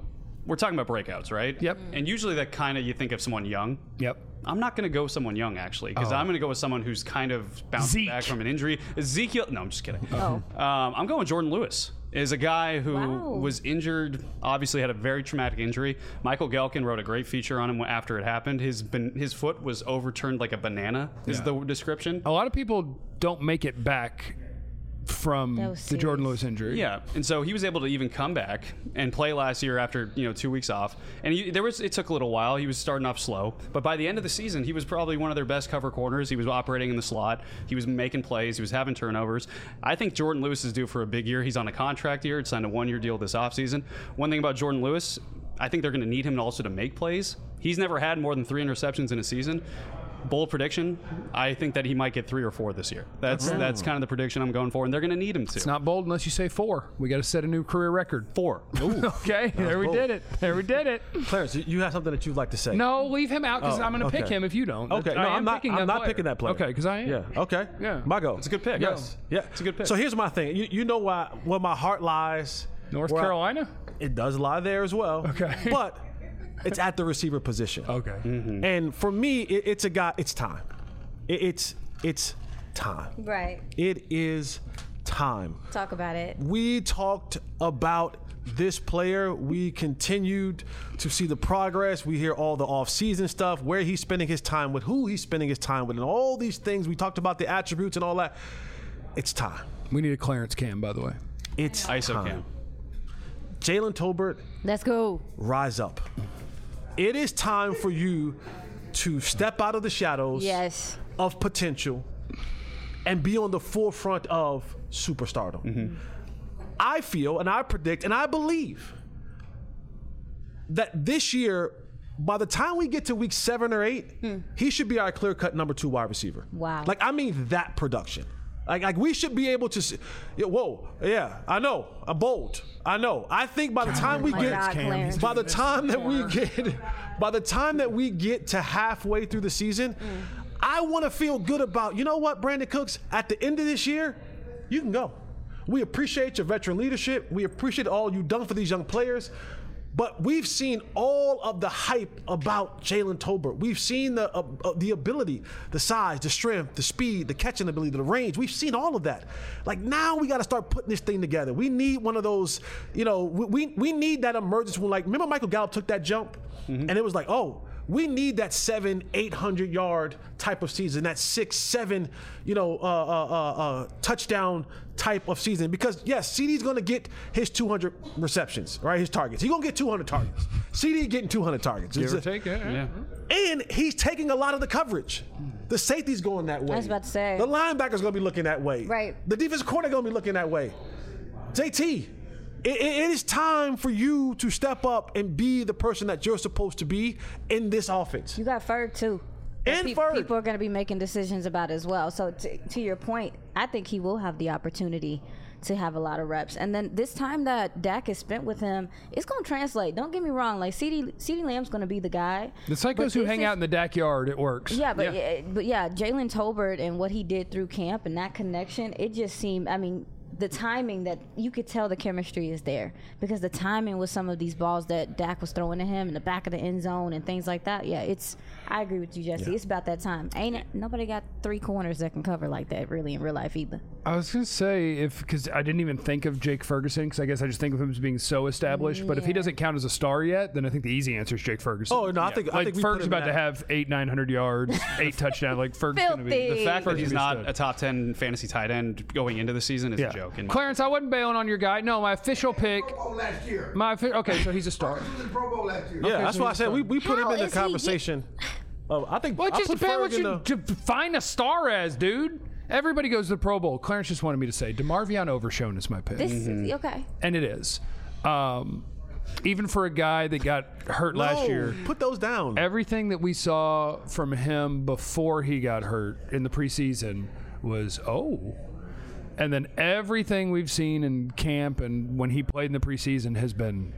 we're talking about breakouts, right? Yep. And usually that kind of you think of someone young. Yep. I'm not going to go with someone young, actually, because Oh. I'm going to go with someone who's kind of bouncing Zeke. back from an injury. Ezekiel, no, I'm just kidding. Oh. Um, I'm going Jordan Lewis. Is a guy who Wow. was injured, obviously had a very traumatic injury. Michael Gelkin wrote a great feature on him after it happened. His ban- his foot was overturned like a banana, is Yeah. the description. A lot of people don't make it back from That was the Jordan serious. Lewis injury. Yeah, and so he was able to even come back and play last year after you know two weeks off. And he, there was it took a little while. He was starting off slow, but by the end of the season, he was probably one of their best cover corners. He was operating in the slot. He was making plays. He was having turnovers. I think Jordan Lewis is due for a big year. He's on a contract year. It's signed a one-year deal this offseason. One thing about Jordan Lewis, I think they're going to need him also to make plays. He's never had more than three interceptions in a season. Bold prediction, I think that he might get three or four this year. That's that's kind of the prediction I'm going for, and they're going to need him to. It's not bold unless you say four. We got to set a new career record. four. Okay, there we bold. did it. There we did it. Clarence, you- you have something that you'd like to say? No, leave him out because Oh, I'm going to pick okay. him if you don't. Okay, no, I am I'm not. picking I'm that not player. picking that player. Okay, because I am. Yeah. Okay. Yeah. My go. It's a good pick. Yes. Yeah. It's a good pick. So here's my thing. You, you know why? Where my heart lies. North where I- Carolina? it does lie there as well. Okay. But it's at the receiver position. Okay. And for me, it, it's a guy. It's time. It, it's it's time. Right. It is time. Talk about it. We talked about this player. We continued to see the progress. We hear all the off-season stuff, where he's spending his time with, who he's spending his time with, and all these things. We talked about the attributes and all that. It's time. We need a Clarence Cam, by the way. It's I S O time. cam. Jalen Tolbert, Let's go. rise up. It is time for you to step out of the shadows Yes. of potential and be on the forefront of superstardom. I feel and I predict and I believe that this year, by the time we get to week seven or eight, he should be our clear-cut number two wide receiver. Wow. Like, I mean that production. Like, like we should be able to see, yeah, whoa, yeah, I know, I'm bold. I know. I think by the time we my get, God, Clarence. by the time that we get, by the time that we get to halfway through the season, I want to feel good about, you know what, Brandon Cooks, at the end of this year, you can go. We appreciate your veteran leadership. We appreciate all you've done for these young players. But we've seen all of the hype about Jalen Tolbert. We've seen the uh, uh, the ability, the size, the strength, the speed, the catching ability, the range. We've seen all of that. Like, now we got to start putting this thing together. We need one of those, you know, we we, we need that emergence when, like, remember Michael Gallup took that jump? And it was like, oh, we need that seven, eight hundred yard type of season, that six, seven, you know, uh, uh, uh, uh, touchdown type of season. Because yes, C D's going to get his two hundred receptions, right? His targets. He's going to get two hundred targets. C D getting two hundred targets. Give or It's- take it. Yeah. And he's taking a lot of the coverage. The safety's going that way. I was about to say. The linebacker's going to be looking that way. Right. The defensive corner going to be looking that way. J T, it, it- it is time for you to step up and be the person that you're supposed to be in this offense. You got Ferg too. That And peop- Ferg. People are going to be making decisions about as well. So to, to your point, I think he will have the opportunity to have a lot of reps. And then this time that Dak has spent with him, it's going to translate. Don't get me wrong. Like CeeDee, CeeDee Lamb's going to be the guy. The psychos But who this hang is- out in the Dak yard, it works. Yeah, but yeah. but yeah, Jalen Tolbert and what he did through camp and that connection, it just seemed. I mean, the timing that you could tell the chemistry is there because the timing with some of these balls that Dak was throwing to him in the back of the end zone and things like that. Yeah, it's. I agree with you, Jesse. It's about that time. Ain't it? Nobody got three corners that can cover like that really in real life either. I was gonna say if because I didn't even think of Jake Ferguson because I guess I just think of him as being so established. But if he Yeah. doesn't count as a star yet, then I think the easy answer is Jake Ferguson. Oh, no, I think- I like think we put Ferg's him about in to that- have eight, nine hundred yards, eight touchdowns. Like Ferg's gonna be Filthy. The fact that Ferg's he's gonna be not stud. a top ten fantasy tight end going into the season is Yeah. a joke. in my- Clarence, I wasn't bailing on your guy. No, my official pick. Pro Bowl last year. My offi- okay, so he's a star. He was in the Pro Bowl last year. Yeah, that's so why I he's said we, we put How him in the is he get- conversation. Oh, I think Well, it I just put depends what Ferg in you the- to define a star as, dude. Everybody goes to the Pro Bowl. Clarence just wanted me to say DeMarvion Overshown is my pick. This is okay. And it is. Um, even for a guy that got hurt last No, year, put those down. everything that we saw from him before he got hurt in the preseason was, oh. And then everything we've seen in camp and when he played in the preseason has been,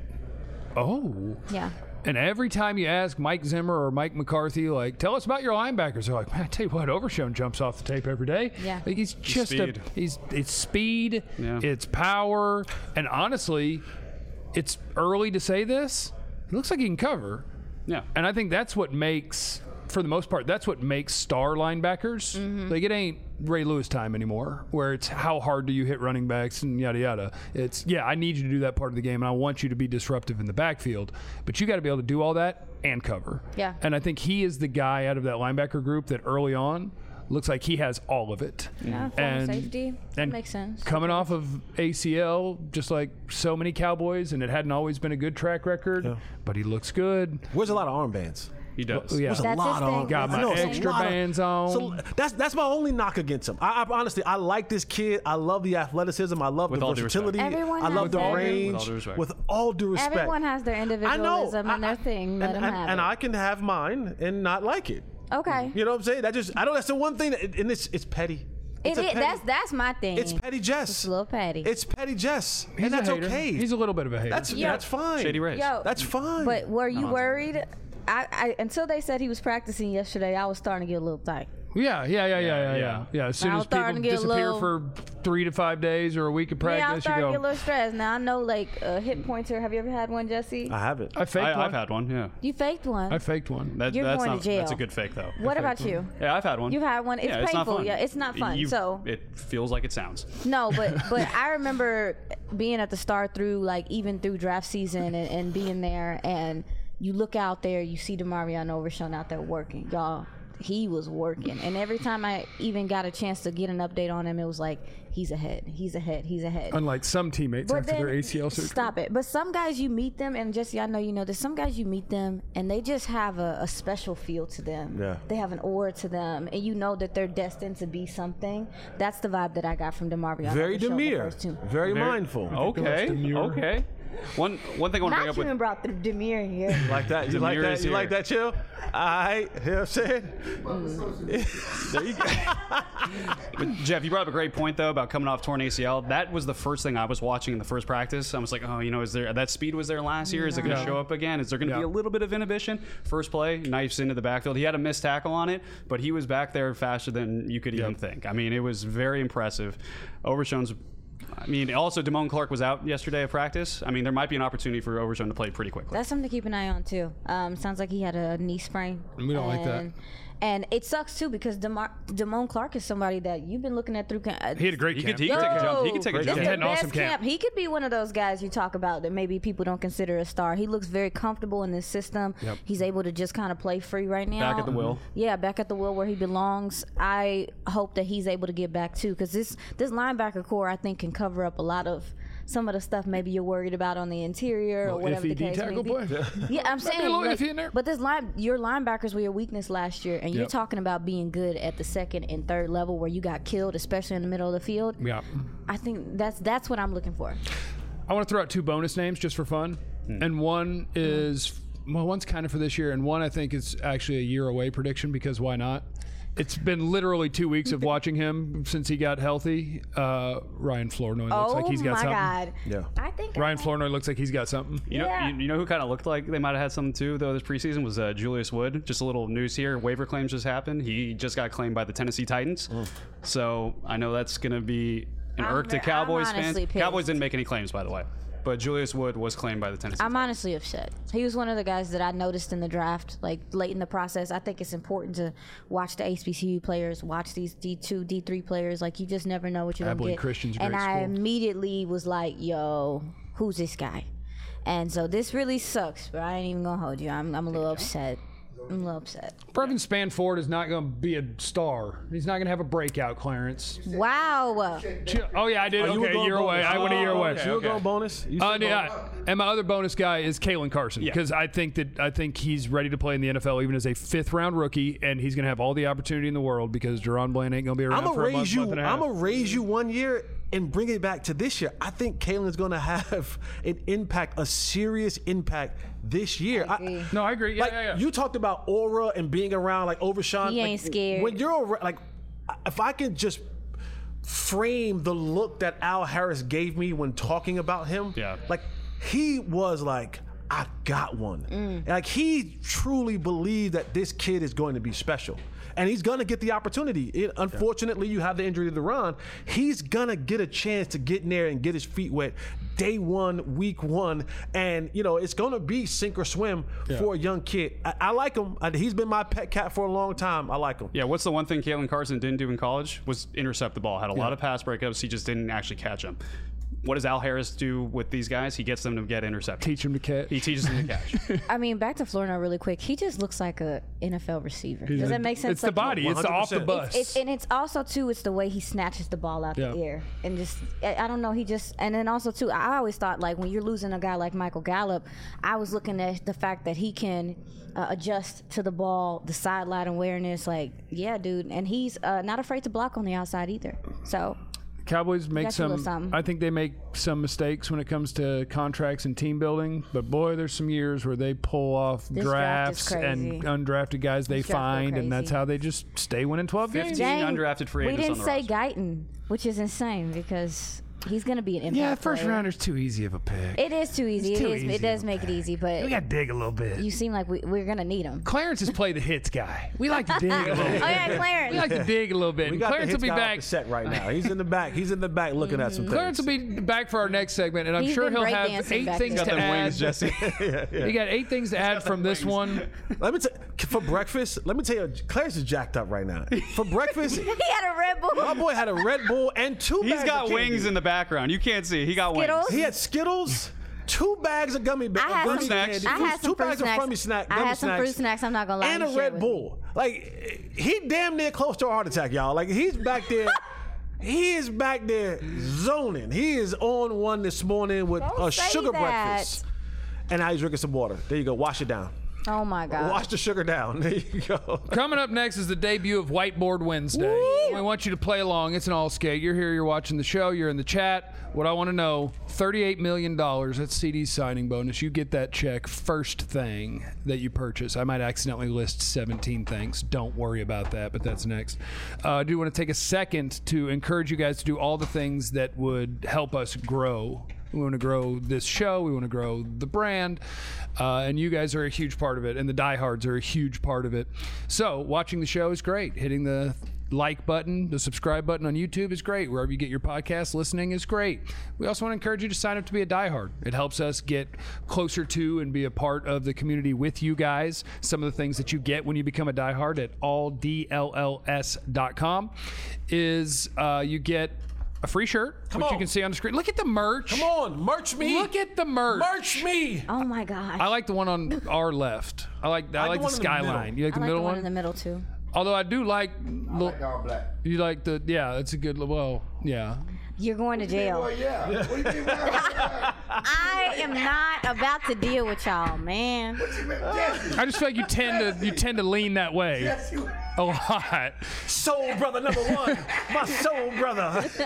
oh. Yeah. And every time you ask Mike Zimmer or Mike McCarthy, like, tell us about your linebackers, they're like, man, I tell you what, Overshown jumps off the tape every day. Yeah. Like, he's just speed. a, he's, it's speed, Yeah. it's power, and honestly, it's early to say this, He looks like he can cover. Yeah. And I think that's what makes, for the most part, that's what makes star linebackers. Mm-hmm. Like, it ain't Ray Lewis time anymore, where it's how hard do you hit running backs and yada yada. It's, yeah, I need you to do that part of the game, and I want you to be disruptive in the backfield. But you got to be able to do all that and cover. Yeah. And I think he is the guy out of that linebacker group that early on looks like he has all of it. Yeah, former and, safety. That and makes sense. Coming off of A C L, just like so many Cowboys, and it hadn't always been a good track record, Yeah. but he looks good. Wears a lot of armbands. He does. Yeah. There's a That's lot his of thing. Got my I know, it's a extra lot of- bands on. So that's that's my only knock against him. I, I honestly I like this kid. I love the athleticism. I love With the all due respect. versatility. Everyone I love has the that. range. With all due respect. With all due respect. Everyone has their I know. individualism and I- their thing. Let and, them and, have and it. I can have mine and not like it. okay. You know what I'm saying? That just I know that's the one thing, that, and it's it's petty. It It's a is. petty- That's that's my thing. It's petty Jess. It's a little petty. It's petty Jess, He's and that's a hater. okay. He's a little bit of a hater. that's Yo. that's fine. Shady Rays. Yo, That's fine. But were you No, I'm- worried? I, I until they said he was practicing yesterday, I was starting to get a little tight. yeah, yeah, yeah, yeah, yeah, yeah. yeah. Yeah, as soon I as was starting people to get a disappear little- for three to five days or a week of Yeah, I was practice, you starting to get a go, little stressed. Now I know, like a hip pointer. Have you ever had one, Jesse? I have it. I faked I, one. I've had one. Yeah. You faked one. I faked one. That, You're that's going to not, jail. That's a good fake though. what about you? Yeah, I've had one. You've had one. It's yeah, it's not painful. fun. Yeah, it's not fun. You- So- it feels like it sounds. No, but but I remember being at the start through like even through draft season and, and being there, and you look out there, you see DeMarion Overshown out there working, y'all. He was working, and every time I even got a chance to get an update on him, it was like he's ahead, he's ahead, he's ahead. Unlike some teammates But after then, their A C L surgery. stop it. But some guys you meet them, and Jesse, I know you know this. Some guys you meet them, and they just have a, a special feel to them. Yeah. They have an aura to them, and you know that they're destined to be something. That's the vibe that I got from DeMarvion. Very Overshown the demure. first two. Very, Very- mindful. Okay. demure. Okay. One one thing I want to bring Not up you with even brought the demure here. Like that? You like Demure that? is You like here. that, chill? I, you know what I'm saying? There you go. But Jeff, you brought up a great point though about coming off torn A C L. That was the first thing I was watching in the first practice. I was like, oh, you know, is there that speed was there last year? Is it going to Yeah. show up again? Is there going to Yeah. be a little bit of inhibition? First play, knifes into the backfield. He had a missed tackle on it, but he was back there faster than you could even Yep. think. I mean, it was very impressive. Overshown's. I mean, also Damone Clark was out yesterday at practice. I mean, there might be an opportunity for Overshown to play pretty quickly. That's something to keep an eye on too. Um, sounds like he had a knee sprain. We don't like that. And- And it sucks too because Demar- Damone Clark is somebody that you've been looking at through. Uh, He had a great He camp. could, he could take a jump. He could take a Great jump. This He is had the an best awesome camp. He could be one of those guys you talk about that maybe people don't consider a star. He looks very comfortable in this system. Yep. He's able to just kind of play free right now. Back at the wheel. Yeah, back at the wheel where he belongs. I hope that he's able to get back too because this this linebacker core I think can cover up a lot of some of the stuff maybe you're worried about on the interior or Little whatever iffy the case D-tackle may be. play. Yeah, I'm Might be saying. a little like, iffy in there. But this line, your linebackers were your weakness last year, and you're Yep. talking about being good at the second and third level where you got killed, especially in the middle of the field. Yeah. I think that's that's what I'm looking for. I want to throw out two bonus names just for fun. And one is, well, one's kind of for this year, and one I think is actually a year away prediction because why not? It's been literally two weeks of watching him since he got healthy. Uh, Ryan Flournoy looks oh like he's got my something. God! Yeah. I think Ryan I, Flournoy looks like he's got something. You know, Yeah. you, you know who kind of looked like they might have had something too, though, this preseason was uh, Julius Wood. Just a little news here. Waiver claims just happened. He just got claimed by the Tennessee Titans. So I know that's going to be an I'm irk to ver- I'm Cowboys fans. honestly pissed. Cowboys didn't make any claims, by the way. But Julius Wood was claimed by the Tennessee I'm Titans. honestly upset. He was one of the guys that I noticed in the draft, like late in the process. I think it's important to watch the H B C U players, watch these D two, D three players. Like you just never know what you're gonna Abilene get. Christian's a and great I school. immediately was like, "Yo, who's this guy?" And so this really sucks. But I ain't even gonna hold you. I'm, I'm a little upset. I'm a little upset. Brevin Spanford is not going to be a star. He's not going to have a breakout, Clarence. Wow. Oh, yeah, I did. Oh, you were okay, going year away. bonus. I went a year Oh, away. okay, You were going bonus? You Uh, said yeah, bonus? and my other bonus guy is Kalen Carson Yeah. because I think that I think he's ready to play in the N F L even as a fifth round rookie, and he's going to have all the opportunity in the world because Deron Bland ain't going to be around I'm for gonna a month, raise you. month and a half. I'm gonna raise you one year and bring it back to this year. I think Kalen's gonna have an impact, a serious impact this year. I agree. no, I agree. Yeah, like yeah, yeah. you talked about aura and being around like Overshown. He like, ain't scared. When you're around, like, if I can just frame the look that Al Harris gave me when talking about him, Yeah. like he was like I got one. And like he truly believed that this kid is going to be special. And he's going to get the opportunity. It, unfortunately, you have the injury to De'Ron. He's going to get a chance to get in there and get his feet wet day one, week one. And, you know, it's going to be sink or swim Yeah. for a young kid. I, I like him. I, he's been my pet cat for a long time. I like him. Yeah, what's the one thing Kalen Carson didn't do in college was intercept the ball. Had a lot of pass breakups. He just didn't actually catch them. What does Al Harris do with these guys? He gets them to get intercepted. Teach him to catch. He teaches them to catch. I mean, back to Florida really quick. He just looks like a N F L receiver. Does that make sense? It's the Like, body. It's the off the one hundred percent. bus. It's, and it's also too. It's the way he snatches the ball out Yeah. the air, and just I, I don't know. He just and then also too. I always thought like when you're losing a guy like Michael Gallup, I was looking at the fact that he can uh, adjust to the ball, the sideline awareness. Like, yeah, dude, and he's uh, not afraid to block on the outside either. So. Cowboys make Got you a little some. something. I think they make some mistakes when it comes to contracts and team building. But boy, there's some years where they pull off This draft is drafts and crazy. undrafted guys they This draft go find, and that's crazy. how they just stay winning twelve games. fifteen Dang, undrafted free we agents didn't on say the roster. Guyton, which is insane because he's going to be an impact Yeah, first player. rounder's too easy of a pick. It is too easy. It's It too is. easy It does of a make it pick. easy, but we got to dig a little bit. you seem like we, we're going to need him. Clarence has played the hits guy. We like to dig a little bit. Oh yeah, We Clarence. like to dig a little bit. We And got Clarence the will hits be guy off back. the set right now. He's in the back. He's in the back looking at some things. Clarence will be back for our next segment, and I'm He's sure been he'll have breakdancing eight back things there. to Got them add. wings, Jesse. You got eight things to add from this one. Let me t- for breakfast. Let me tell you, Clarence is jacked up right now. For breakfast, He had a Red Bull. my boy had a Red Bull and two. He's bags got of candy. wings in the background. You can't see. He got Skittles? wings. He had Skittles, two bags of gummy bears, I had gummy some, snacks. candy, I had two some fruit bags snacks. of Frummy snack, I gummy had some snacks, fruit snacks. I'm not gonna lie. and He a shared Red with Bull. Like he damn near close to a heart attack, y'all. Like he's back there. He is back there zoning. He is on one this morning with Don't a say sugar that. breakfast, and now he's drinking some water. There you go. Wash it down. me. Oh my God. Wash the sugar down. There you go. Coming up next is the debut of Whiteboard Wednesday. We want you to play along. It's an all skate. You're here, you're watching the show, you're in the chat. What I want to know, thirty-eight million dollars, that's C D's signing bonus. You get that check first thing that you purchase. I might accidentally list seventeen things. Don't worry about that, but that's next. Uh, I do want to take a second to encourage you guys to do all the things that would help us grow. We want to grow this show. We want to grow the brand. Uh, and you guys are a huge part of it. And the diehards are a huge part of it. So watching the show is great. Hitting the like button, the subscribe button on YouTube is great. Wherever you get your podcast, listening is great. We also want to encourage you to sign up to be a diehard. It helps us get closer to and be a part of the community with you guys. Some of the things that you get when you become a diehard at all d l l s dot com is uh, you get a free shirt, Come which on. you can see on the screen. Look at the merch. Come on, merch me. Look at the merch. merch me. Oh my God. I like the one on our left. I like I, like the the one in the skyline. middle. You like I the like middle the one one? in the middle too. Although I do like, I lo- like all black. you like the yeah, that's a good. Well, yeah. You're going to jail. Well, yeah. What do you mean? Why? I am not about to deal with y'all, man. Jesse, I just feel like you tend to you tend to lean that way Jesse, a lot. Soul brother number one. My soul brother.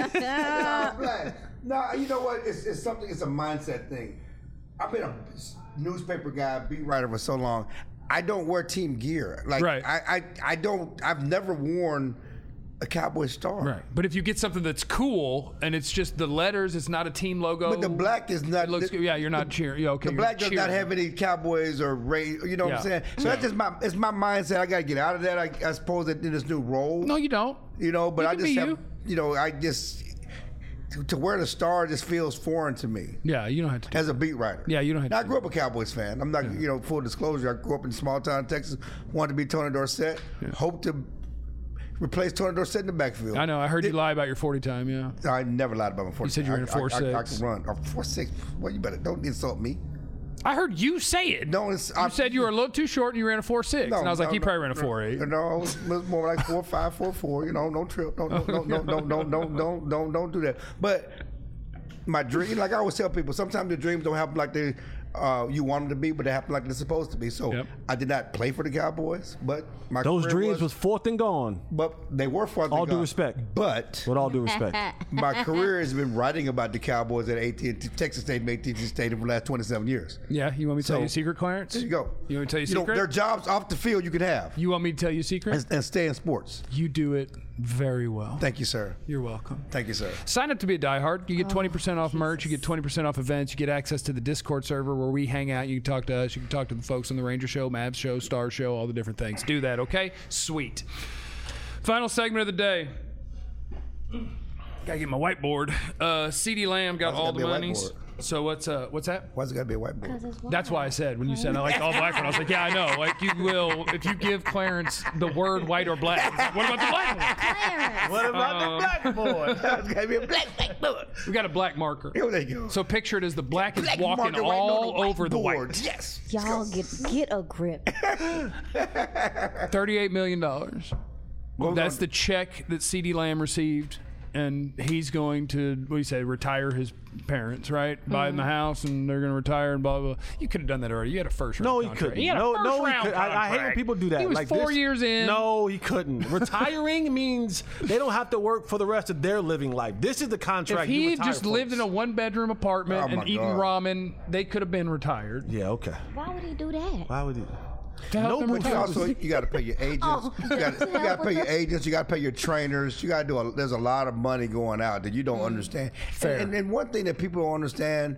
all black. No, you know what? It's, it's something. It's a mindset thing. I've been a newspaper guy, beat writer for so long. I don't wear team gear. Like Right. I, I, I don't. I've never worn a Cowboy star. Right. But if you get something that's cool and it's just the letters, it's not a team logo. But the black is not. It looks the, good. Yeah, you're not cheering. Yeah, okay. The you're black does not cheering. have any Cowboys or Ray. You know what I'm Yeah. saying? So that's just my. It's my mindset. I got to get out of that. I, I suppose in this new role. No, you don't. You know, but You I can just be have. you. You know, I just to, to wear the star just feels foreign to me. Yeah, you don't have to. Do As a beat writer. Yeah, you don't have Now, to I grew up a Cowboys fan. I'm not, you know, full disclosure. I grew up in small town Texas. Wanted to be Tony Dorsett. Hope to replace Tony Dorsett in the backfield. I know. I heard you Did- lie about your forty time. Yeah. I never lied about my forty. You said you were in a I- I- four I, I, I six. can run. Oh, four six. Well, you better don't insult me. I heard you say it. No, it's, You said you were a little too short and you ran a four six. No, and I was like, no, he no, probably ran a no, four eight. No, it was more like four five, four four. You know, no trip. No, no, no, no, no, no, no, don't, don't, don't do that. But my dream, like I always tell people, sometimes the dreams don't happen like they uh, you want them to be, but they happen like they're supposed to be. So Yep. I did not play for the Cowboys, but my Those career dreams was, was fourth and gone. but they were farther All due gone. respect. But With all due respect. my career has been writing about the Cowboys at A T and T, Texas State, and A T and T Stadium for the last twenty-seven years. Yeah, you want me to tell So- you a secret, Clarence? There you go. You want me to tell you a You know, secret? there are jobs off the field you can have You want me to tell you a secret? and, and stay in sports. You do it very well. Thank you, sir. You're welcome. Thank you, sir. Sign up to be a diehard. You get twenty percent off merch. You get twenty percent off events. You get access to the Discord server where we hang out. You can talk to us. You can talk to the folks on the Ranger Show, Mavs Show, Star Show, all the different things. Do that, okay? Sweet. Final segment of the day. Gotta get my whiteboard. Uh, CeeDee Lamb got Why's it all gotta the be a monies. whiteboard? So what's uh what's that? Why's it got to be a whiteboard? That's why I said when you said I like all black one, I was like, yeah, I know. Like you will if you give Clarence the word white or black. Like, what about the black one? Clarence. What about Um, the blackboard? It's got to be a black whiteboard. We got a black marker. Here they go. So picture it as the black is Black walking marker right on all the over the whiteboard. white. Yes. Y'all get get a grip. Thirty-eight million dollars. What That's was the check that CeeDee Lamb received, and he's going to what do you say? Retire his parents, right? Buy them the house, and they're going to retire and blah blah. blah. You could have done that already. You had a first round. No, he contract. couldn't. He had a no, first no, he round could. I, I hate when contract. people do that. He was like four this. years in. No, he couldn't. Retiring means they don't have to work for the rest of their living life. This is the contract. If you he retire, just lived folks. in a one-bedroom apartment Oh, my and eating God. ramen, they could have been retired. Yeah, okay. Why would he do that? Why would he? To help them Nobody But you retire. also you got to pay your agents. Oh. you got you got to pay your agents. You got to pay your trainers. You got to do. A, there's a lot of money going out that you don't understand. Fair. And, and, and one thing that people don't understand: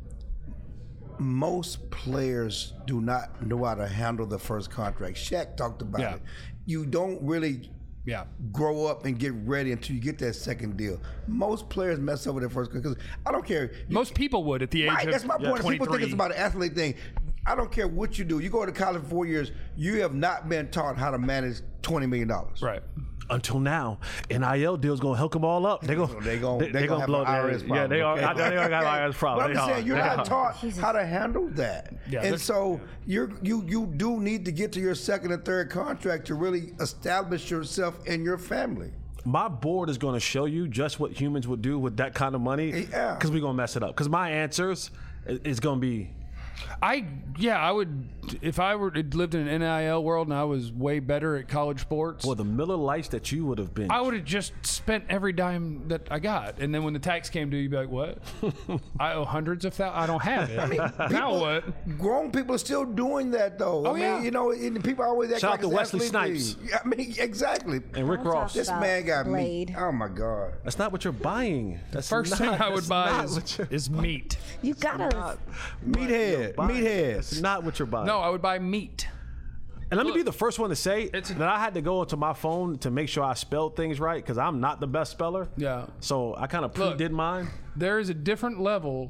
most players do not know how to handle the first contract. Shaq talked about Yeah. it. You don't really Yeah. grow up and get ready until you get that second deal. Most players mess up with their first because I don't care. You- Most people would at the age Right, of that's my point. People think twenty-three. it's about an athlete thing. I don't care what you do. You go to college for four years, you have not been taught how to manage twenty million dollars. Right. Until now, N I L deal's gonna hook them all up. They go. They gon' they, they gonna, have blow an I R S their- problem. Yeah, they are. okay? I know they are got an I R S problem. But I'm They just are. saying, you're They not are. taught Jesus. how to handle that. Yeah, and there's- so you're you you do need to get to your second and third contract to really establish yourself and your family. My board is going to show you just what humans would do with that kind of money. Yeah. Because we're going to mess it up. Because my answers i- is going to be. I yeah, I would if I were lived in an N I L world and I was way better at college sports. Boy, the Miller Lights that you would have been. I would have just spent every dime that I got, and then when the tax came due, you'd be like, "What? I owe hundreds of thousands. I don't have it. now what?" Grown people are still doing that though. Oh, I mean, yeah. you know, and people always act Shout like out to it's Wesley athlete Snipes. thing. Yeah, I mean, exactly. and Rick Don't Ross. talk This about man got Blade. me. Oh my God. That's not what you're buying. That's First not, thing I would that's buy not is, what you're is meat. You gotta. Meathead. buying. Meathead. That's not what you're buying. No, I would buy meat. And let me Look, be the first one to say it's a- that I had to go into my phone to make sure I spelled things right because I'm not the best speller. Yeah. So I kind of Look. pre-did mine. There is a different level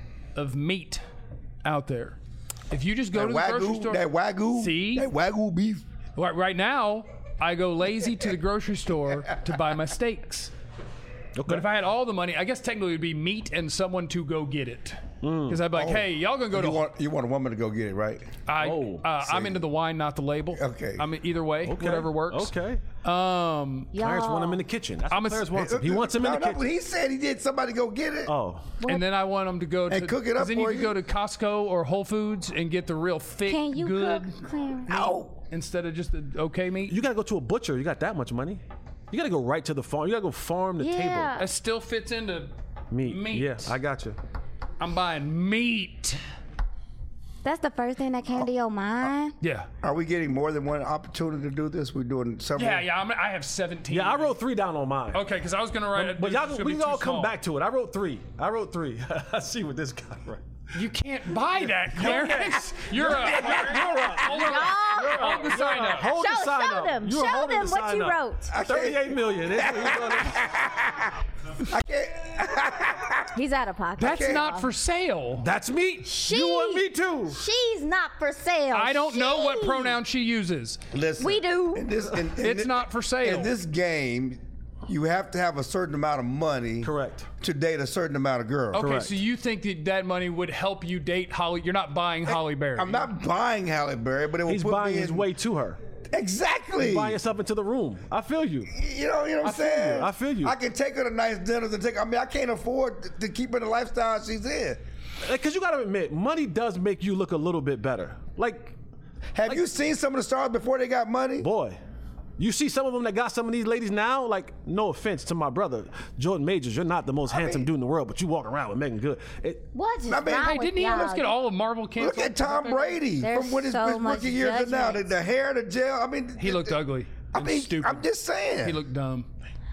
of meat out there. If you just go That to the grocery wagyu, store, that wagyu, See? that wagyu beef. right, right now, I go lazy to the grocery store to buy my steaks. Okay. But if I had all the money, I guess technically it would be meat and someone to go get it. Because I'd be like, hey, y'all gonna go to. You want you want a woman to go get it, right? I, Oh, uh, I'm see. into the wine, not the label. Okay. I mean, either way, Okay. whatever works. Okay. Um, Clarence want him in Y'all. the kitchen. That's I'm what a- Clarence wants him. He wants him in No, the no, kitchen. but he said he did somebody go get it. Oh. and then I want them to go to. And cook it up 'cause then you for can you. go to Costco or Whole Foods and get the real thick, Can you good cook, Clarence? Ow. instead of just the okay meat. You got to go to a butcher. You got that much money. You got to go right to the farm. You got to go farm the Yeah. That still fits into table. Meat. Meat. Yeah, I got you. I'm buying meat. That's the first thing that came to your mind. Yeah. Are we getting more than one opportunity to do this? We're doing several. Yeah, yeah. I'm, I have seventeen. Yeah, I wrote three down on mine. Okay, because I was gonna write it. But it's y'all, gonna we be can too all come small. back to it. I wrote three. I wrote three. I see what this guy wrote. You can't buy that, Clarence. You're a. You're a. Hold on. Y'all, Hold the sign up. Hold show, the sign show up. them. You were Show holding them the what sign you up. wrote. I can't. thirty-eight million. I can't. He's out of pocket. That's not for sale. That's me. She, You want me too. She's not for sale. I don't know what She- pronoun she uses. Listen. We do. In this, in, in It's thi- not for sale. In this game, you have to have a certain amount of money. Correct. To date a certain amount of girls. Okay, Correct. so you think that that money would help you date Holly? You're not buying Holly Berry. I'm not buying Halle Berry, but it will He's put buying me his in, way to her. Exactly. Buying yourself into the room. I feel you. You know, you know what I'm I feel you. saying? I feel you. I can take her to nice dinners and take. I mean, I can't afford to, to keep her in the lifestyle she's in. Because you got to admit, money does make you look a little bit better. Like, Have you seen some of the stars before they got money? boy, you see some of them that got some of these ladies now. Like, no offense to my brother, Jordan Majors, you're not the most handsome mean- dude in the world, but you walk around with Megan Good. It, What's I mean, wrong Hey, with didn't he y'all? almost get all of Marvel canceled? Look at Tom Brady There's from when his, so his much rookie years to now. The, judgment. the hair, the gel. I mean, He looked ugly. I and mean, stupid. I'm just saying. He looked dumb.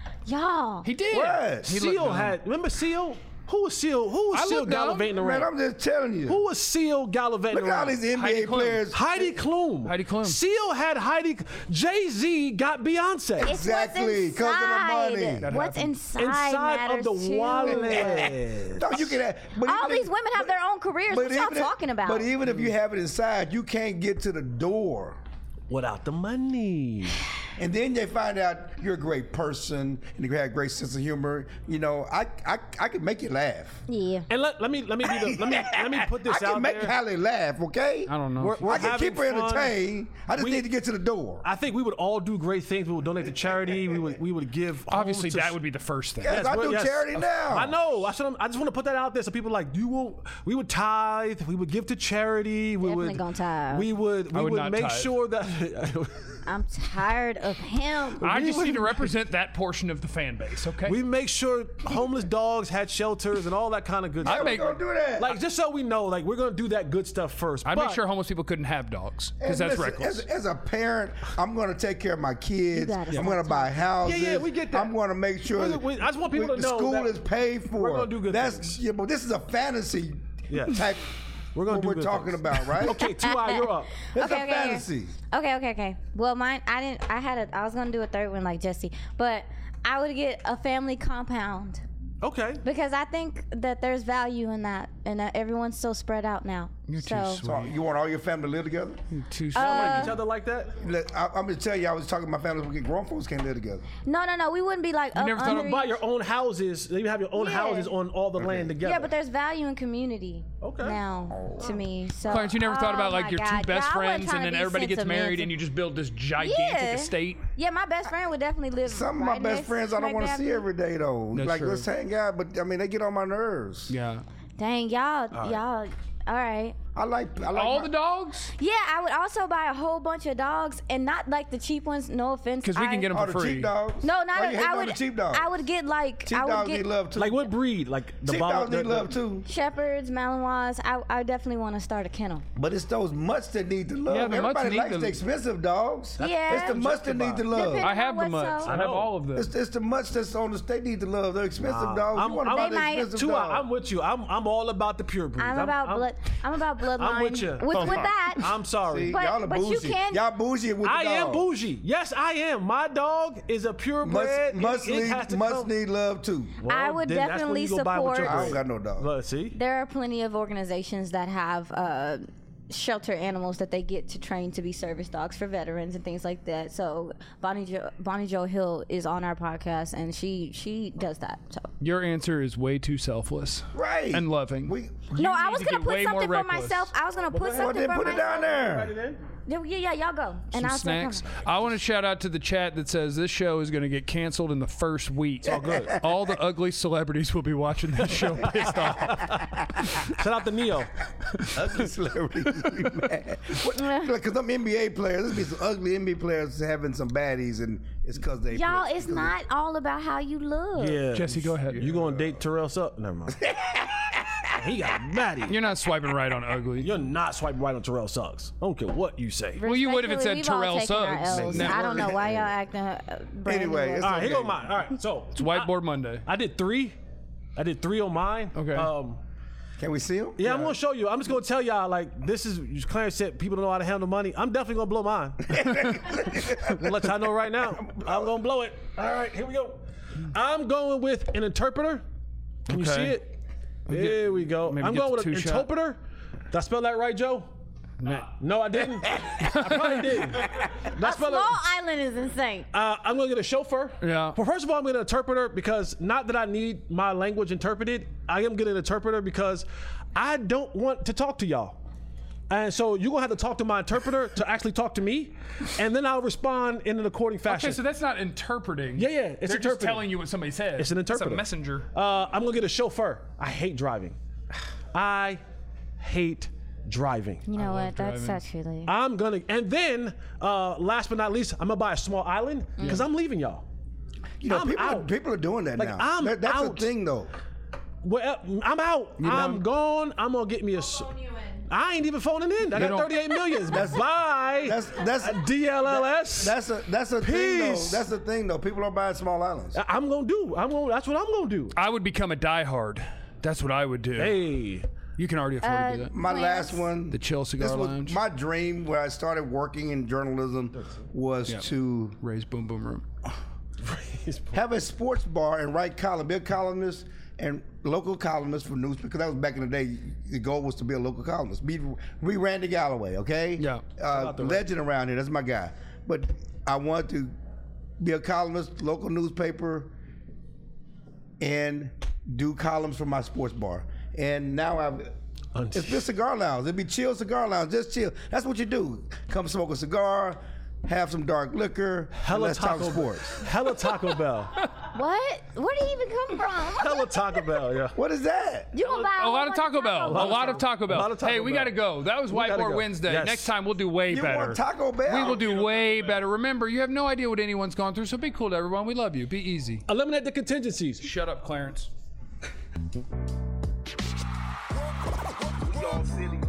Y'all. He did. What? He looked Seal dumb. had. Remember Seal? Who was Seal? Who was I Seal looked dumb. gallivanting Man, around? I'm just telling you. Who was Seal gallivanting Look at all around? these N B A Heidi Klum. players. Heidi Klum. Heidi Klum. Seal had Heidi. Jay Z got Beyonce. It's Exactly, what's 'cause of the money. inside. That What's happened. inside, Inside matters of the too. wallet. No, you can have, but All even these if- women have their own careers. What y'all even if- talking about? But even if you have it inside, you can't get to the door. Without the money. And then they find out you're a great person and you have a great sense of humor. You know, I I, I can make you laugh. yeah. And let, let me let me be the, let me let me put this I can out make there. Hallie laugh, okay? I don't know. We're- we're I can having keep her fun. entertained. I just We- need to get to the door. I think we would all do great things. We would donate to charity. We would we would give. Obviously, homes to- that would be the first thing. Yes, I we're- do charity now. I know. I, should, I just want to put that out there so people are like, you won't. We would tithe. We would give to charity. We Definitely would. gonna tithe. We would. We I would would, not make tithe. sure that I'm tired of him. I just would- need to represent that portion of the fan base, okay? we make sure homeless dogs had shelters and all that kind of good I stuff. make- Don't do that. Like just so we know, like we're gonna do that good stuff first. I'd but make sure homeless people couldn't have dogs because And that's listen, reckless. As, as a parent, I'm going to take care of my kids. gotta I'm stop going to buy houses. Yeah, yeah, we get that. I'm going to make sure We- that we- I just want people we- to the know school that is paid for. we're gonna do good That's things. yeah, but this is a fantasy Yeah. type. We're gonna what do we're good talking things. about, right? Okay, two eye, you're up. It's Okay, a okay, fantasy. Okay, okay, okay. Well, mine, I didn't. I had a. I was gonna do a third one like Jesse, but I would get a family compound Okay. because I think that there's value in that, and that everyone's so spread out now. You're too so, sweet. So you want all your family to live together? Too Like each other like that? Let- I, I'm going to tell you, I was talking to my family. We get grown folks can't live together. No, no, no. We wouldn't be like. You up never thought under of Buy each- your own houses. You have your own Yeah. houses on all the land together. Yeah, but there's value in community. Okay. Now, to me, so. Clarence, you never thought Oh about like my your God. two best Yeah, I wasn't friends trying and to then be everybody gets married sentimental. and you just build this gigantic Yeah. estate? Yeah, my best friend would definitely live. Some of right my best next- friends I don't right want to there. see every day, though. That's like, true. let's hang out. But, I mean, they get on my nerves. Yeah. Dang, y'all, y'all. All right. I like, I like All my- the dogs? Yeah, I would also buy a whole bunch of dogs, and not like the cheap ones. No offense, Because we can I- get them all for the free. cheap dogs. No, not. Why a, you hating I on would. the cheap dogs. I would get like. Cheap I would dogs get need love, too. Like what breed? Like the Cheap bottom- dogs need the- the- love, too. shepherds, Malinois. I, I definitely want to start a kennel. But it's those mutts that need the love. Yeah, the mutts Everybody need likes the- the expensive dogs. Yeah. It's the mutts that need the love. Depending I have the on what's mutts. so- I have all of them. It's, it's the mutts that's on the state need the love. They're expensive Nah, dogs. I'm- you want to I'm- buy They the might- expensive Tua, dog. I'm with you. I'm I'm all about the pure breeds. I'm about I'm, blood. I'm about bloodline. I'm with you. With, with that, I'm sorry. See, But- y'all are but you bougie. can- Y'all bougie with the I am dog. bougie. Yes, I am. My dog is a purebred. Must, must, it, it has need, to must come- need love too. Well, I would then that's when definitely you go buy with your support- I don't breed. got no dog. Look, see? there are plenty of organizations that have uh, shelter animals that they get to train to be service dogs for veterans and things like that. So Bonnie jo- Bonnie Jo Hill is on our podcast, and she she does that. So Your answer is way too selfless. Right. And loving. We, no, I need was to gonna get put way more something for reckless. myself. I was gonna put well, something then for put it myself. down there. Yeah, yeah, yeah, y'all go, and Some I'll start snacks. coming. I want to shout out to the chat that says this show is going to get canceled in the first week. All good. All the ugly celebrities will be watching this show pissed off. Shout out to Neo. Ugly celebrities be mad. Because them N B A players, there's be some ugly N B A players having some baddies, and it's because they. Y'all, play- it's 'cause not all about how you look. Yeah. Jesse, go ahead. You gonna date Terrell Suggs? Never mind. He got a baddie. You're not swiping right on ugly. You're not swiping right on Terrell Suggs. I don't care what you say. Well, you would if it said Respectfully, we've all Terrell taken our Suggs. L's. Never. I don't know why y'all acting. Uh, brand Anyway, new. it's All right, here okay. go mine. All right, so It's Whiteboard Monday. I did three. I did three on mine. Okay. Um, Can we see them? yeah, I'm gonna show you. I'm just gonna tell y'all like this is Clarence said people don't know how to handle money. I'm definitely gonna blow mine. I'm gonna let y'all know right now. I'm gonna blow it. All right, here we go. I'm going with an interpreter. Can you Okay. see it? There we go. maybe I'm get going the with an two-shot. interpreter. Did I spell that right, Joe? No, I didn't. I probably didn't. Did I spell Small it? Island is insane. Uh, I'm gonna get a chauffeur. Yeah. Well, first of all, I'm gonna interpreter because not that I need my language interpreted. I am getting an interpreter because I don't want to talk to y'all. And so you're gonna have to talk to my interpreter to actually talk to me, and then I'll respond in an according fashion. Okay, so that's not interpreting. Yeah, yeah, it's They're just interpreting. telling you what somebody says. It's an interpreter. It's a messenger. uh, I'm gonna get a chauffeur. I hate driving. I hate driving. You know what? That's driving. actually. I'm gonna, and then uh, last but not least, I'm gonna buy a small island because I'm leaving y'all. You know, I'm people, are, out. people are doing that Like, now. I'm That- that's out. a thing, though. Well, I'm out. I'm done? gone. I'm gonna get me a. s- I ain't even phoning in. I got don't- thirty-eight million. Bye. That's that's D L L S. That's a that's a thing though. Peace. That's the thing though. People are buying small islands. I- I'm gonna do. I'm gonna. That's what I'm gonna do. I would become a diehard. That's what I would do. Hey. You can already afford Uh, to do that. My Plans? last one, The Chill Cigar this was Lounge. my dream when I started working in journalism was Yeah. to Raise Boom Boom Room. have a sports bar and write column, be a columnist and local columnist for news, because that was back in the day. The goal was to be a local columnist. Be we Randy Galloway, okay? Yeah. uh, legend around here. That's my guy. But I wanted to be a columnist, local newspaper, and do columns for my sports bar. And now I've. It's been cigar lounge. It'd be chill cigar lounge. Just chill. That's what you do. Come smoke a cigar, have some dark liquor, and Hella let's talk Taco sports. Hella Taco Bell. What? Where did he even come from? Hella Taco Bell. Yeah. What is that? You gonna buy A lot of Taco Bell. A lot of Taco Bell. lot of Taco Hey, we Bell. got to go. That was We gotta Whiteboard go. Wednesday. Yes. Next time we'll do way You better. want Taco Bell? We will do way better. Remember, you have no idea what anyone's gone through, so be cool to everyone. We love you. Be easy. Eliminate the contingencies. Shut up, Clarence. We all silly.